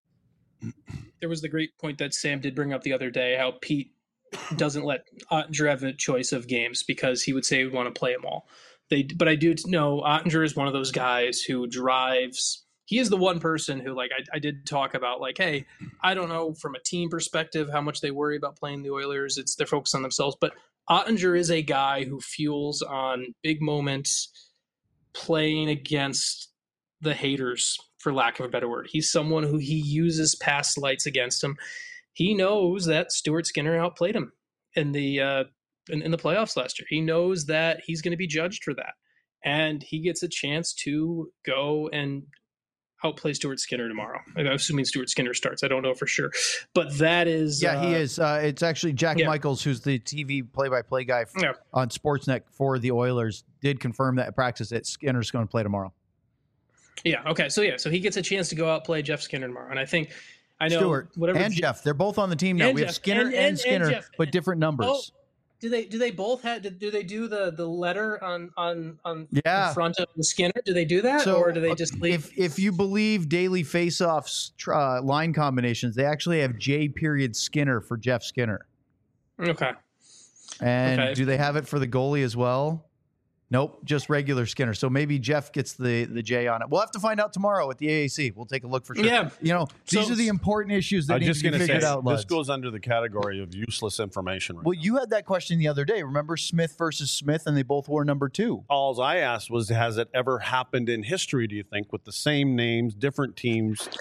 there was the great point that Sam did bring up the other day, how Pete doesn't let Ottinger have a choice of games because he would say he would want to play them all. They, but I do know Ottinger is one of those guys who drives. He is the one person who, like, I, I did talk about, like, hey, I don't know from a team perspective how much they worry about playing the Oilers. It's they're focused on themselves. But Ottinger is a guy who fuels on big moments, playing against the haters, for lack of a better word. He's someone who he uses past lights against him. He knows that Stuart Skinner outplayed him in the uh, in, in the playoffs last year. He knows that he's going to be judged for that, and he gets a chance to go and outplay Stuart Skinner tomorrow. I'm assuming Stuart Skinner starts. I don't know for sure, but that is Yeah, he uh, is. Uh, it's actually Jack yeah. Michaels, who's the T V play-by-play guy f- Yeah. on Sportsnet for the Oilers, did confirm that at practice that Skinner's going to play tomorrow. Yeah. Okay. So yeah. So he gets a chance to go out play Jeff Skinner tomorrow, and I think I know Stewart whatever and Je- Jeff, they're both on the team now. And We have Jeff. Skinner And- and, and- and Skinner, Jeff. but different numbers. Oh, do they do they both have do they do the the letter on on on Yeah. in front of the Skinner? Do they do that, So, or do they uh, just leave? if if you believe daily faceoffs tr- uh, line combinations, they actually have J period Skinner for Jeff Skinner. Okay. And Okay. do they have it for the goalie as well? Nope, just regular Skinner. So maybe Jeff gets the the J on it. We'll have to find out tomorrow at the A A C. We'll take a look for sure. Yeah. You know, these So- are the important issues that I'm need just to be going to figured say out. this Luds. goes under the category of useless information. Right Well, now. you had that question the other day. Remember Smith versus Smith, and they both wore number two. All I asked was, has it ever happened in history, do you think, with the same names, different teams?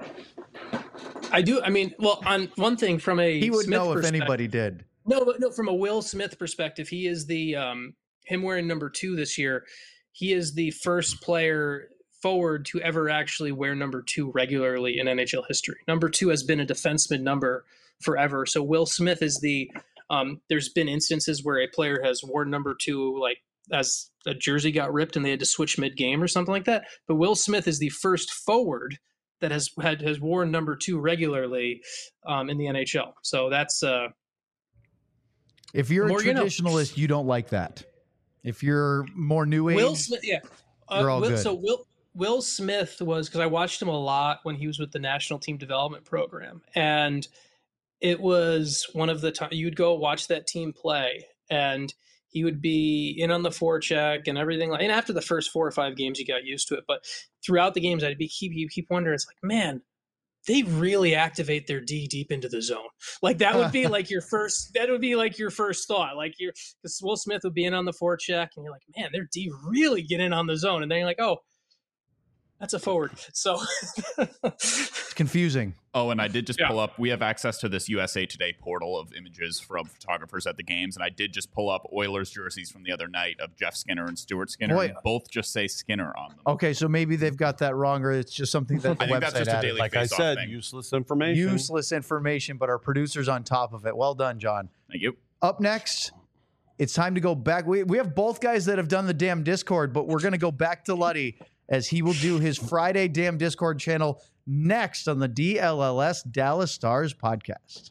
I do. I mean, well, on one thing from a He would Smith know if perspective- anybody did. No, but no, from a Will Smith perspective, he is the um him wearing number two this year. He is the first player forward to ever actually wear number two regularly in N H L history. Number two has been a defenseman number forever. So Will Smith is the um, there's been instances where a player has worn number two, like as a jersey got ripped and they had to switch mid game or something like that. But Will Smith is the first forward that has had has worn number two regularly um, in the N H L. So that's uh, if you're a more you know. traditionalist, you don't like that. If you're more new age, Will Smith, yeah. Uh, you're all Will, good. So Will Will Smith was, because I watched him a lot when he was with the National Team Development Program, and it was one of the times you'd go watch that team play, and he would be in on the forecheck and everything. Like, and after the first four or five games, you got used to it. But throughout the games, I'd be keep you keep wondering. It's like, man, they really activate their D deep into the zone. Like that would be like your first. That would be like your first thought. Like you're, because Will Smith would be in on the forecheck, and you're like, man, their D really get in on the zone, and then you're like, oh, that's a forward. So it's confusing. Oh, and I did just Yeah. pull up. We have access to this U S A Today portal of images from photographers at the games, and I did just pull up Oilers jerseys from the other night of Jeff Skinner and Stuart Skinner. Boy. And both just say Skinner on them. Okay, so maybe they've got that wrong, or it's just something that the I think website that's just a added. daily Like I face-off said, thing. useless information. Useless information, but our producer's on top of it. Well done, John. Thank you. Up next, it's time to go back. We, we have both guys that have done the damn Discord, but we're going to go back to Luddy as he will do his Friday damn Discord channel next on the D L L S Dallas Stars podcast.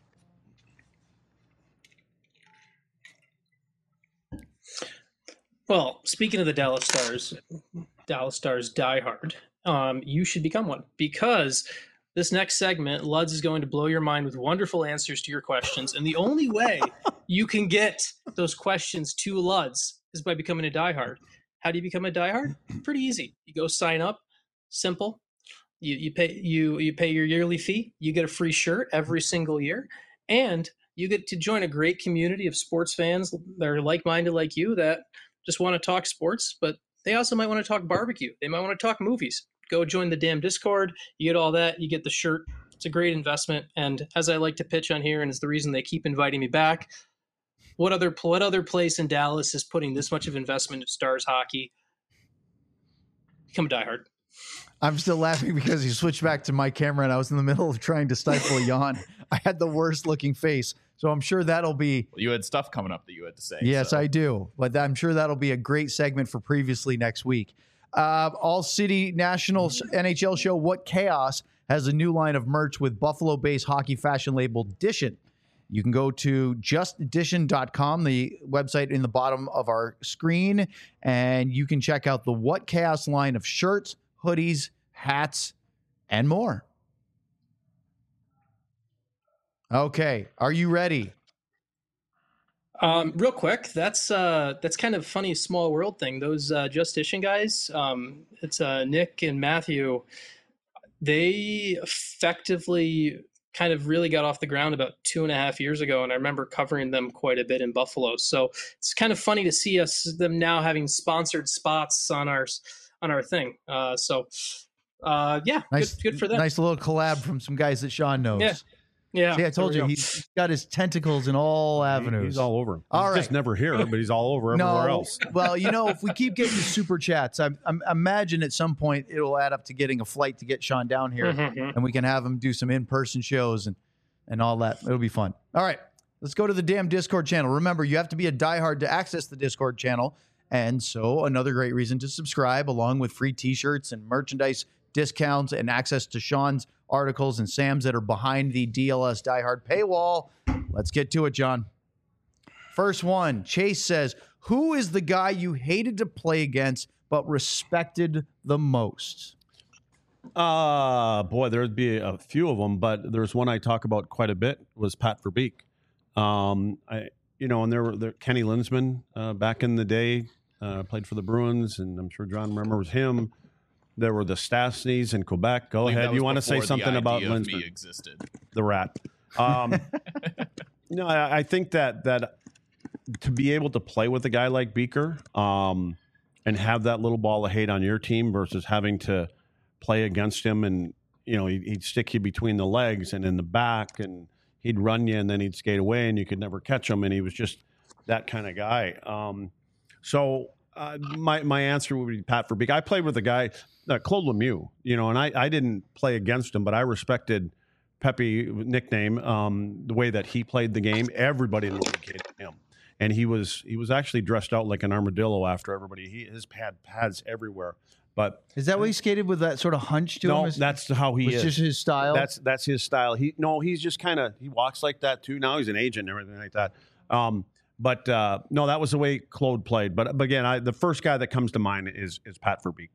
Well, speaking of the Dallas Stars, Dallas Stars diehard, um, you should become one, because this next segment, Luds is going to blow your mind with wonderful answers to your questions. And the only way you can get those questions to Luds is by becoming a diehard. How do you become a diehard? Pretty easy. You go sign up. Simple. You you pay you you pay your yearly fee. You get a free shirt every single year, and you get to join a great community of sports fans that are like-minded like you, that just want to talk sports, but they also might want to talk barbecue. They might want to talk movies. Go join the damn Discord. You get all that. You get the shirt. It's a great investment. And as I like to pitch on here, and it's the reason they keep inviting me back, what other what other place in Dallas is putting this much of investment in Stars hockey? Become a diehard. I'm still laughing because you switched back to my camera and I was in the middle of trying to stifle a yawn. I had the worst looking face. So I'm sure that'll be. Well, you had stuff coming up that you had to say. Yes, so. I do. But I'm sure that'll be a great segment for previously next week. Uh, All City National N H L show What Chaos has a new line of merch with Buffalo-based hockey fashion label Dishin. You can go to just dishin dot com, the website in the bottom of our screen, and you can check out the What Chaos line of shirts, hoodies, hats, and more. Okay, are you ready? Um, real quick, that's uh, that's kind of funny small world thing. Those uh, Just Dishin guys, um, it's uh, Nick and Matthew. They effectively kind of really got off the ground about two and a half years ago, and I remember covering them quite a bit in Buffalo. So it's kind of funny to see us them now having sponsored spots on our on our thing. Uh, so uh, yeah, Nice, good, good for them. Nice little collab from some guys that Sean knows. Yeah. Yeah, See, I told there you we go. he's got his tentacles in all avenues. He's all over. He's All right. just never here, but he's all over everywhere else. Well, you know, if we keep getting the super chats, I, I imagine at some point it'll add up to getting a flight to get Sean down here, Mhm. and we can have him do some in-person shows and and all that. It'll be fun. All right, let's go to the damn Discord channel. Remember, you have to be a diehard to access the Discord channel, and so another great reason to subscribe, along with free T-shirts and merchandise discounts and access to Sean's articles and Sam's that are behind the D L S diehard paywall. Let's get to it, John. First one, Chase says, who is the guy you hated to play against but respected the most? Uh, boy, there'd be a few of them, but there's one I talk about quite a bit was Pat Verbeek. Um, I, you know, and there were there, Kenny Linsman uh, back in the day uh, played for the Bruins, and I'm sure John remembers him. There were the Stastnys in Quebec. Go I think that ahead. was You want to say before the something about idea of me Linsman? existed. The rat. Um, no, I, I think that that to be able to play with a guy like Beaker um, and have that little ball of hate on your team versus having to play against him, and you know he'd, he'd stick you between the legs and in the back, and he'd run you, and then he'd skate away, and you could never catch him, and he was just that kind of guy. Um, so uh, my my answer would be Pat Verbeek. I played with a guy. uh, Claude Lemieux, you know, and I, I didn't play against him, but I respected Pepe nickname, um, the way that he played the game. Everybody in the league hated him. And he was he was actually dressed out like an armadillo after everybody. He his pad pads everywhere. But Is that why he skated with that sort of hunch to no, him? Is- that's how he was is. just his style? That's that's his style. He no, he's just kind of he walks like that too. Now he's an agent and everything like that. Um, but uh, no, that was the way Claude played. But, but again, I, the first guy that comes to mind is is Pat Verbeek.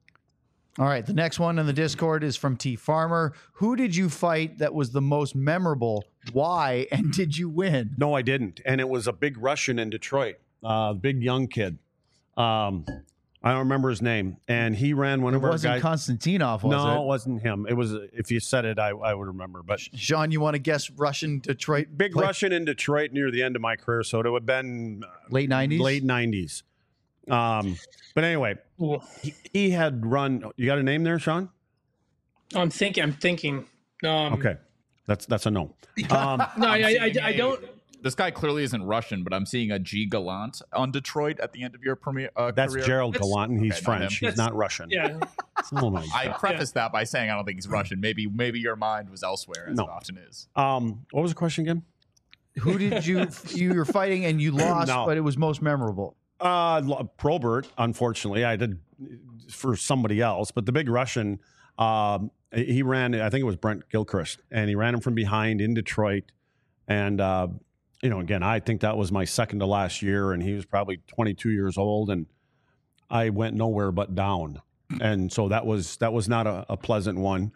All right. The next one in the Discord is from T Farmer. Who did you fight that was the most memorable? Why? And did you win? No, I didn't. And it was a big Russian in Detroit, uh, big young kid. Um, I don't remember his name. And he ran one It of our wasn't guys. Konstantinov, was no, it? it wasn't him. It was, if you said it, I, I would remember. But Sean, you want to guess Russian Detroit? big play- Russian in Detroit near the end of my career. So it would have been Late nineties? late nineties. Um, but anyway, Ooh. he, he had run. You got a name there, Sean? I'm thinking. I'm thinking. Um, Okay, that's that's a no. Um, No, I, I, I, seeing I a- don't. This guy clearly isn't Russian, but I'm seeing a G Gallant on Detroit at the end of your premier uh, that's career. Gerald That's- Gallant, and he's okay, not French. him. He's That's- not Russian. Yeah. Oh my I God. prefaced that by saying I don't think he's Russian. Maybe maybe your mind was elsewhere, as No. it often is. Um, what was the question again? Who did you you were fighting and you lost, No. but it was most memorable? Uh, Lo- Probert. Unfortunately, I did for somebody else, but the big Russian. Um, he ran. I think it was Brent Gilchrist, and he ran him from behind in Detroit. And uh, you know, again, I think that was my second to last year, and he was probably twenty-two years old, and I went nowhere but down. And so that was that was not a, a pleasant one.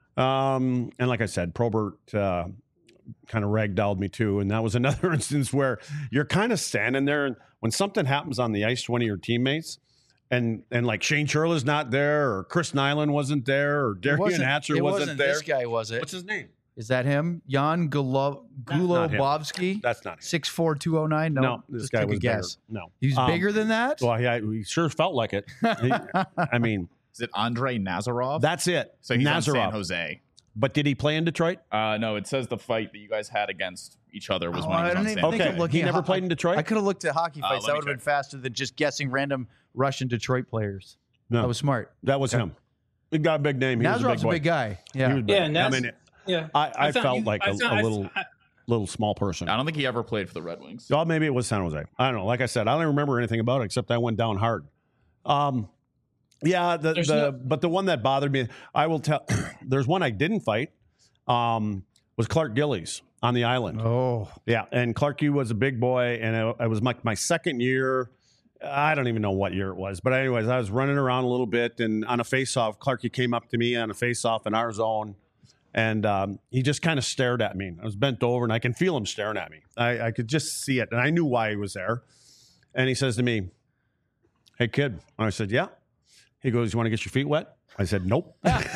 Um, and like I said, Probert uh, kind of ragdolled me too. And that was another instance where you're kind of standing there, and when something happens on the ice to one of your teammates, and and like Shane Churla's not there, or Chris Nyland wasn't there, or It Darian wasn't- Hatcher it wasn't, wasn't there. this guy, was it? What's his name? Is that him? Jan Gulo- That's not him. Gulobovsky? That's not him. six four two oh nine? No, No, this just guy take was a guess. bigger. No, He's Um, bigger than that? Well, he, he sure felt like it. He- I mean, Is it Andrei Nazarov? that's it. so he's on San Nazarov. Jose. But did he play in Detroit? Uh, no, it says the fight that you guys had against each other was Oh, when he I was on didn't San even Jose. think Okay, of looking he at never ho- played in Detroit? I could have looked at hockey Uh, fights. let that me would have been check. faster than just guessing random Russian Detroit players. No. That was smart. That was Okay. him. He got a big name. He was a Nazarov's big, a boy. big guy. He Yeah. was big. Yeah, Naz- I mean, Yeah. I, I, found felt you- like I a, found- a I- little I- little small person. I don't think he ever played for the Red Wings. Well, maybe it was San Jose. I don't know. Like I said, I don't remember anything about it except I went down hard. Um, yeah, the, There's the no- but the one that bothered me, I will tell. There's one I didn't fight. Um, was Clark Gillies on the island. Oh, Yeah, and Clarky was a big boy, and it, it was my, my second year. I don't even know what year it was, but anyways, I was running around a little bit, and on a face-off, Clarky came up to me on a face-off in our zone, and um, he just kind of stared at me. I was bent over, and I can feel him staring at me. I, I could just see it, and I knew why he was there. And he says to me, "Hey, kid," and I said, "Yeah." He goes, "You want to get your feet wet?" I said, "Nope."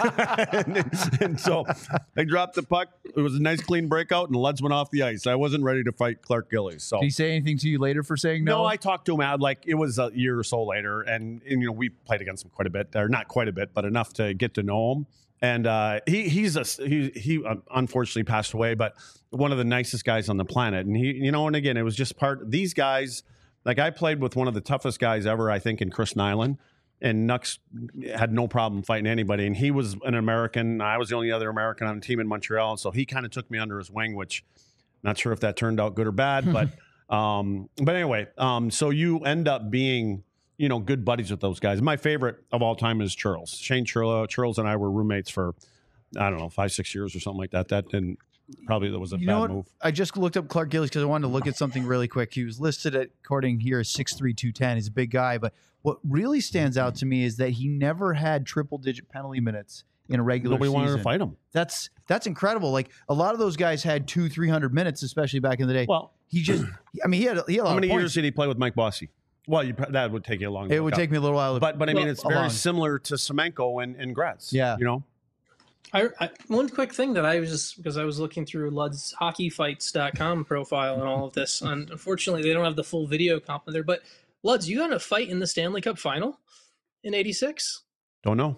and, and so I dropped the puck. It was a nice clean breakout, and the Leds went off the ice. I wasn't ready to fight Clark Gillies. So did he say anything to you later for saying no? no, I talked to him out like it was a year or so later, and, and you know we played against him quite a bit, or not quite a bit, but enough to get to know him. And uh, he he's a he he uh, unfortunately passed away, but one of the nicest guys on the planet. And he you know, and again, it was just part these guys. Like I played with one of the toughest guys ever, I think, in Chris Nyland. And Nux had no problem fighting anybody. And he was an American. I was the only other American on the team in Montreal. And so he kind of took me under his wing, which not sure if that turned out good or bad. But um, but anyway, um, so you end up being, you know, good buddies with those guys. My favorite of all time is Charles. Shane Churla. Charles and I were roommates for, I don't know, five, six years or something like that. That didn't, probably that was a You bad know what? move. I just looked up Clark Gillies because I wanted to look at something really quick. He was listed at, according here, as six three, two ten. He's a big guy. But what really stands out to me is that he never had triple-digit penalty minutes in a regular Nobody season. wanted to fight him. That's that's incredible. Like a lot of those guys had two, three hundred minutes, especially back in the day. Well, he just, I mean, he had he had a lot how many of points. years did he play with Mike Bossy? Well, you, that would take you a long time. It would take me a little while. To, But but I mean, Well, it's very along. similar to Semenko and, and Gratz. Yeah. You know? I, I, one quick thing that I was just because I was looking through Lud's hockey fights dot com profile and all of this, and unfortunately they don't have the full video comp in there. But Luds, you got in a fight in the Stanley Cup final in eighty-six? Don't know.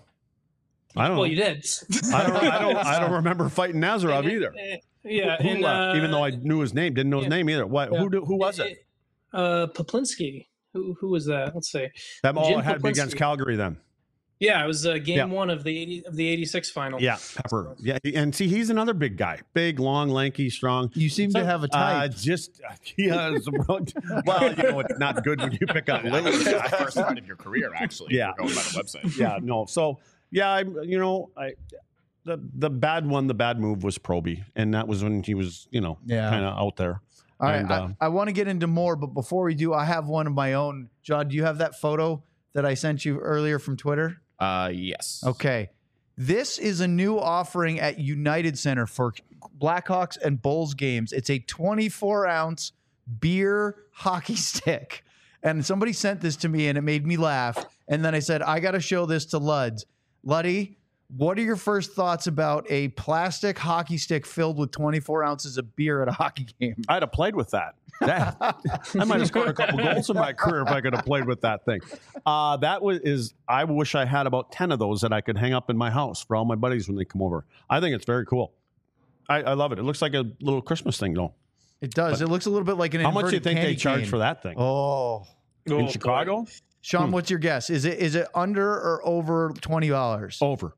I don't Well, know. you did. I don't I don't I don't remember fighting Nazarov either. Yeah, Who, and, uh, uh, even though I knew his name, didn't know his yeah. name either. What Yeah. who do, who was it? Uh, Poplinski. Who who was that? Let's see. That all Jim had to be against Poplinski. Calgary then. Yeah, it was uh, game Yeah. one of the eighty of the eighty-six final. Yeah, Pepper. Yeah, and see, he's another big guy, big, long, lanky, strong. You seem to have a Uh, type. just he has. Well, you know, it's not good when you pick on That's Lillard. the first fight of your career, actually. Yeah. if you're going by the website. Yeah, no. So yeah, I you know I the the bad one, the bad move was Proby, and that was when he was you know Yeah. kind of out there. All right, And, I, uh, I want to get into more, but before we do, I have one of my own. John, do you have that photo that I sent you earlier from Twitter? Uh, yes. Okay. This is a new offering at United Center for Blackhawks and Bulls games. It's a twenty-four ounce beer hockey stick. And somebody sent this to me and it made me laugh. And then I said, I got to show this to Luds. Luddy, what are your first thoughts about a plastic hockey stick filled with twenty-four ounces of beer at a hockey game? I'd have played with that. That- I might have scored a couple goals in my career if I could have played with that thing. Uh, that was is I wish I had about ten of those that I could hang up in my house for all my buddies when they come over. I think it's very cool. I, I love it. It looks like a little Christmas thing, though. It does. It looks a little bit like an How much do you inverted think they candy charge cane. for that thing Oh. Oh, in boy. Chicago? Sean, Hmm. what's your guess? Is it is it under or over twenty dollars? Over.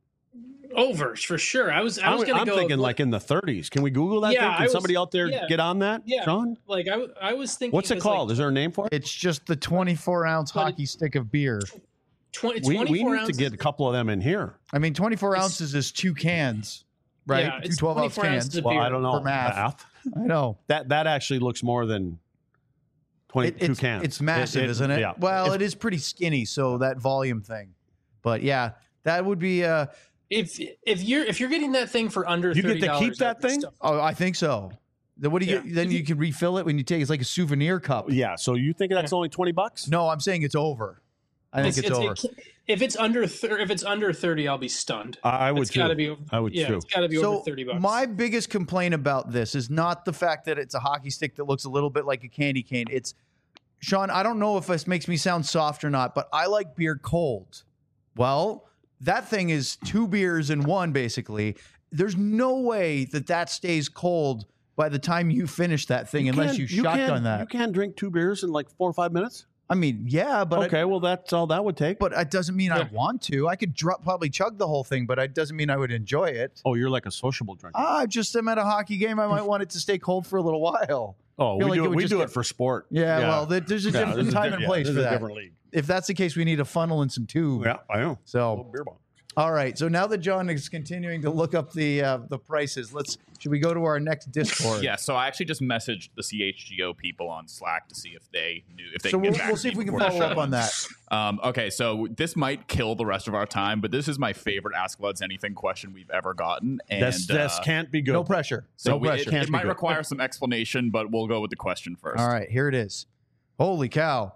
Over for sure. I was I was I'm, gonna I'm go thinking like in the thirties. Can we Google that Yeah, thing? I Can was- somebody out there yeah. get on that? Yeah. Sean? like I, I was thinking. What's it 'cause, called? Like, Is there a name for it? It's just the twenty-four ounce But it- hockey stick of beer. twenty, We, we twenty-four need ounces, to get a couple of them in here. I mean, twenty-four It's- ounces is two cans, right? Yeah, two it's twelve ounce twenty-four ounces cans. of Well, beer. I don't know. For math. I know. That that actually looks more than twenty-two It- it's, cans. it's massive, It- it- isn't it? Yeah. Well, It's- it is pretty skinny, so that volume thing. But yeah, that would be. Uh, If if you're if you're getting that thing for under You get thirty to dollars, keep that thing? oh, I think so. Then what do you? Yeah. Then you can refill it when you take. It's like a souvenir cup. yeah. So you think that's only twenty bucks? No, I'm saying it's over. I think it's, over. if it's under thir- if it's under thirty, I'll be stunned. I, I would It's too. got to be. I would yeah, too. it's got to be So over thirty bucks. my biggest complaint about this is not the fact that it's a hockey stick that looks a little bit like a candy cane. It's Sean. I don't know if this makes me sound soft or not, but I like beer cold. Well, that thing is two beers in one, basically. There's no way that that stays cold by the time you finish that thing, unless can't- you, shotgun can't- that. You can't drink two beers in like four or five minutes. I mean, yeah, but okay, I, well that's all that would take. but it doesn't mean I Yeah. want to. I could dr- probably chug the whole thing, but it doesn't mean I would enjoy it. Oh, you're like a sociable drinker. Ah, I just am at a hockey game. I might want it to stay cold for a little while. oh, feel we like it do it. would We just do get- it for sport. Yeah, well, there- there's a Yeah, different this is time di- and yeah, place this for is a that. different league. If that's the case, we need a funnel and some tube. Yeah, I know. So, Beer bong. all right. So now that John is continuing to look up the uh, the prices, let's should we go to our next Discord? Yeah, so I actually just messaged the C H G O people on Slack to see if they knew if they So can get we'll, back we'll to see me if we can before the follow show up on that. Um, okay, so this might kill the rest of our time, but this is my favorite Ask Luds Anything question we've ever gotten. And This this uh, can't be good. No pressure. so no we- pressure. it, Can't it be might good. require some explanation, but we'll go with the question first. All right, here it is. Holy cow!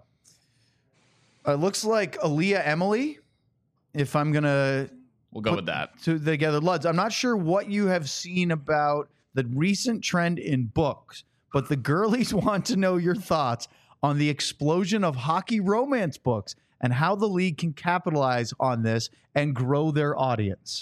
It looks like Aaliyah Emily. If I'm gonna We'll go put with that. to together, Luds. I'm not sure what you have seen about the recent trend in books, but the girlies want to know your thoughts on the explosion of hockey romance books and how the league can capitalize on this and grow their audience.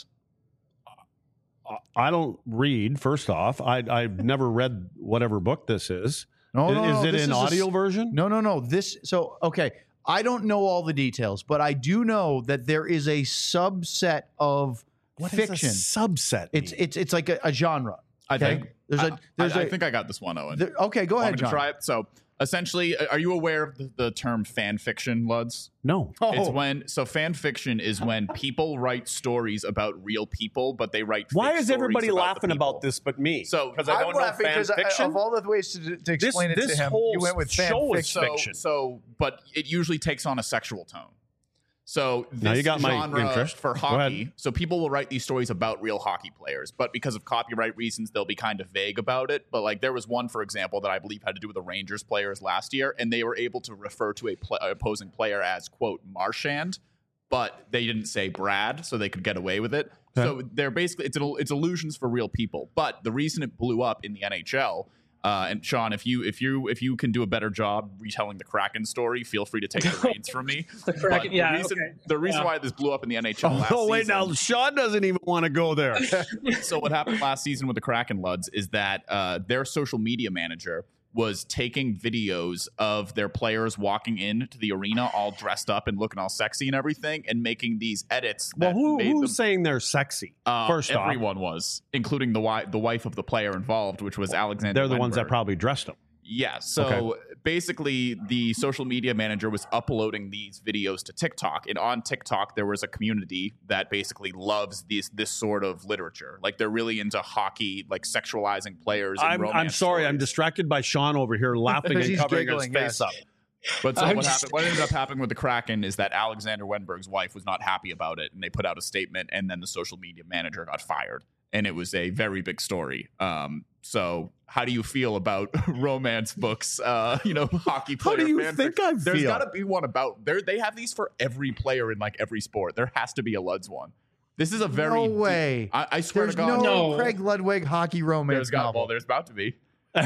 I don't read. First off, I I've never read whatever book this is. No, no, is no, it this an is a audio s- version? No, no, no. This so okay. I don't know all the details, but I do know that there is a subset of What does a fiction. subset. It's mean? it's it's like a, a genre. I Okay? think there's I, a there's I, a I think I got this one, Owen. there- okay. Go Want ahead, me to John. try it? So essentially, are you aware of the, the term fan fiction, Luds? no. Oh, It's when so fan fiction is when people write stories about real people, but they write. Why fake is stories everybody about the laughing people. about this but me? So because I I'm don't know laughing fan because I- fiction. of all the ways to, to This- explain it this to him, whole you went with fan show is fiction. so, fiction. So, but it usually takes on a sexual tone. So this Now you got my genre interest. for Go ahead. hockey. So people will write these stories about real hockey players, but because of copyright reasons, they'll be kind of vague about it. But like there was one, for example, that I believe had to do with the Rangers players last year, and they were able to refer to a pl- opposing player as quote Marchand, but they didn't say Brad, so they could get away with it. Okay. So they're basically it's it's illusions for real people. But the reason it blew up in the N H L. Uh, and Sean, if you if you if you can do a better job retelling the Kraken story, feel free to take the reins from me. The But Kraken- the yeah, reason okay. the reason Yeah. why this blew up in the N H L last Oh wait, season, now Sean doesn't even want to go there. so what happened last season with the Kraken Luds is that uh, their social media manager was taking videos of their players walking into the arena all dressed up and looking all sexy and everything, and making these edits. Well, that who, made who's them, saying they're sexy? uh, First off, everyone was, including the wife, the wife of the player involved, which was Alexander. they're the ones that Wenberg. probably dressed them. Yeah. So Okay. basically, the social media manager was uploading these videos to TikTok, and on TikTok there was a community that basically loves these this sort of literature. Like they're really into hockey, like sexualizing players. And I'm, romance I'm sorry, I'm stories. distracted by Sean over here laughing Because and he's covering giggling, his face yes. up. But so I'm what just- happened? What ended up happening with the Kraken is that Alexander Wenberg's wife was not happy about it, and they put out a statement, and then the social media manager got fired, and it was a very big story. Um, so how do you feel about romance books? Uh, you know, hockey How player. do you fan think fiction? I There's feel? got to be one about there. They have these for every player in like every sport. There has to be a Luds one. This is a very no deep- way. I, I swear There's to God, no, No. Craig Ludwig hockey romance there's got novel. well, there's about to be.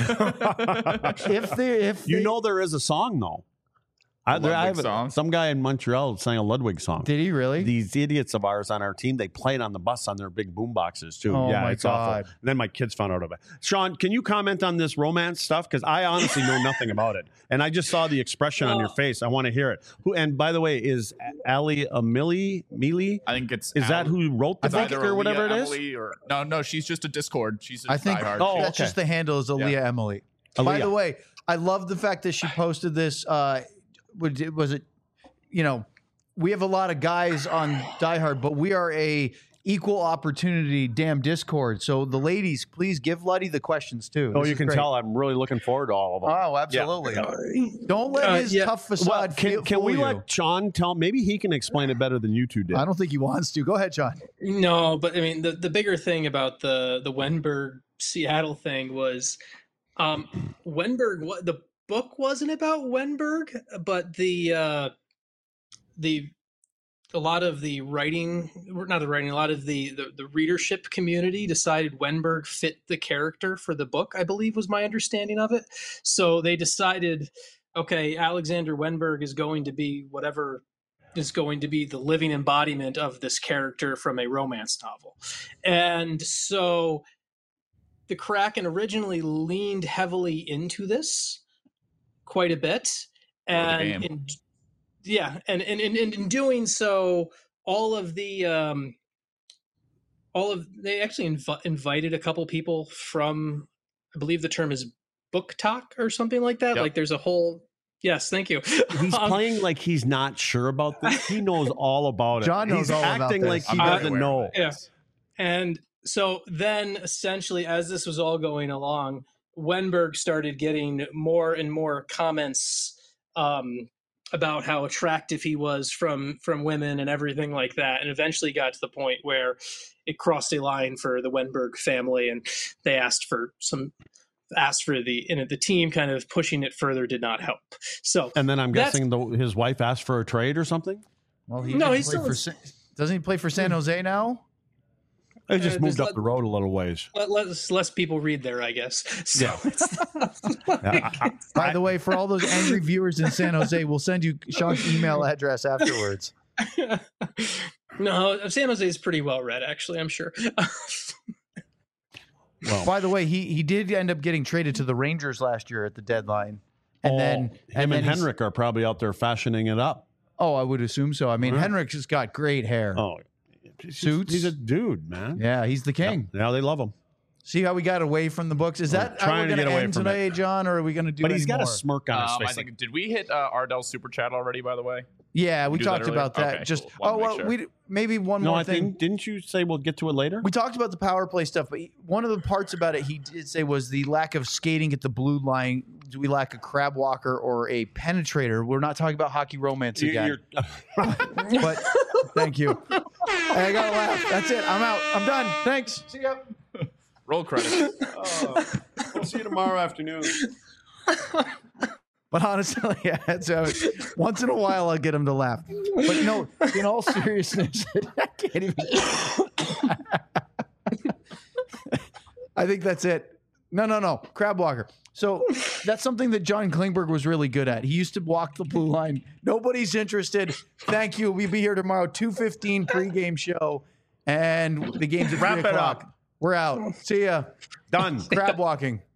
if they, if You they- know there is a song though. I, there, I Ludwig have a- song? some guy in Montreal sang a Ludwig song. did he really? These idiots of ours on our team, they played on the bus on their big boom boxes too. Oh, yeah, my it's God. awful. And then my kids found out about it. Sean, can you comment on this romance stuff? Because I honestly know nothing about it, and I just saw the expression on your face. I want to hear it. Who? And by the way, is Ali Amili Mealy? I think it's Is that Al- who wrote the it's book either or whatever it Aaliyah is? Emily or no, no, she's just a Discord. She's a I think diehard. Oh, that's okay. just the handle is Aaliyah Emily. By Aaliyah. the way, I love the fact that she posted this. Uh, was it- was it, you know, we have a lot of guys on Die Hard, but we are a equal opportunity damn Discord. So the ladies, please give Luddy the questions too. Oh, This you is can great. tell I'm really looking forward to all of them. Oh, absolutely. Don't let Uh, his yeah. tough facade well, can, fool can we you. let Sean tell? Maybe he can explain it better than you two did. I don't think he wants to. Go ahead, John. No, but I mean the, the bigger thing about the the Wenberg Seattle thing was um Wenberg what the book wasn't about Wenberg, but the uh the a lot of the writing not the writing a lot of the, the the readership community decided Wenberg fit the character for the book, I believe was my understanding of it. So they decided, okay, Alexander Wenberg is going to be whatever is going to be the living embodiment of this character from a romance novel. And so the Kraken originally leaned heavily into this quite a bit. And in, yeah, and, and, and in doing so, all of the um, all of they actually inv- invited a couple people from, I believe the term is book talk or something like that. Yep. Like there's a whole yes, thank you. He's Um, playing like he's not sure about this. He knows all about it. John knows he's all about acting this. like he I'm very doesn't aware know. of it, Yeah. yes. And so then essentially as this was all going along, Wenberg started getting more and more comments um, about how attractive he was from from women and everything like that, and eventually got to the point where it crossed a line for the Wenberg family, and they asked for some asked for the and the team kind of pushing it further did not help. So And then I'm That's- guessing the, his wife asked for a trade or something. Well, he No, didn't he's play still for in- San, doesn't he play for San Jose now? They just Uh, moved there's up the road a little ways. let, less less people read there, I guess. So Yeah. it's not like- Yeah, I- I- By the way, for all those angry viewers in San Jose, we'll send you Sean's email address afterwards. No, San Jose is pretty well read, actually, I'm sure. well, By the way, he he did end up getting traded to the Rangers last year at the deadline, and oh, then him and, and, then he's- Henrik are probably out there fashioning it up. Oh, I would assume so. I mean, Yeah. Henrik has got great hair. Oh, he's, Suits? He's a dude, man. Yeah, he's the king. Yeah, they love him. See how we got away from the books? Is We're that how trying we're to going get to away end from today, John, or are we going to do But he's any got more? a smirk on his Um, face. I think did we hit uh, Ardell's super chat already? By the way, Yeah, we do that talked earlier? about that. Okay, Just cool. Wanted oh to make well, sure. we maybe one no, more I thing. think didn't you say we'll get to it later? We talked about the power play stuff, but he- one of the parts about it he did say was the lack of skating at the blue line. Do we lack a crab walker or a penetrator? We're not talking about hockey romance You- again. you're- But thank you. Hey, I gotta laugh. That's it. I'm out. I'm done. Thanks. See ya. roll credits. we'll see you tomorrow afternoon. But honestly, yeah, so once in a while I'll get him to laugh. But no, in all seriousness, I can't even. I think that's it. No, no, no. Crab walker. So that's something that John Klingberg was really good at. He used to walk the blue line. Nobody's interested. Thank you. We'll be here tomorrow, two fifteen pregame show. And the game's at Wrap three it o'clock. up. We're out. See ya. Done. Crab walking.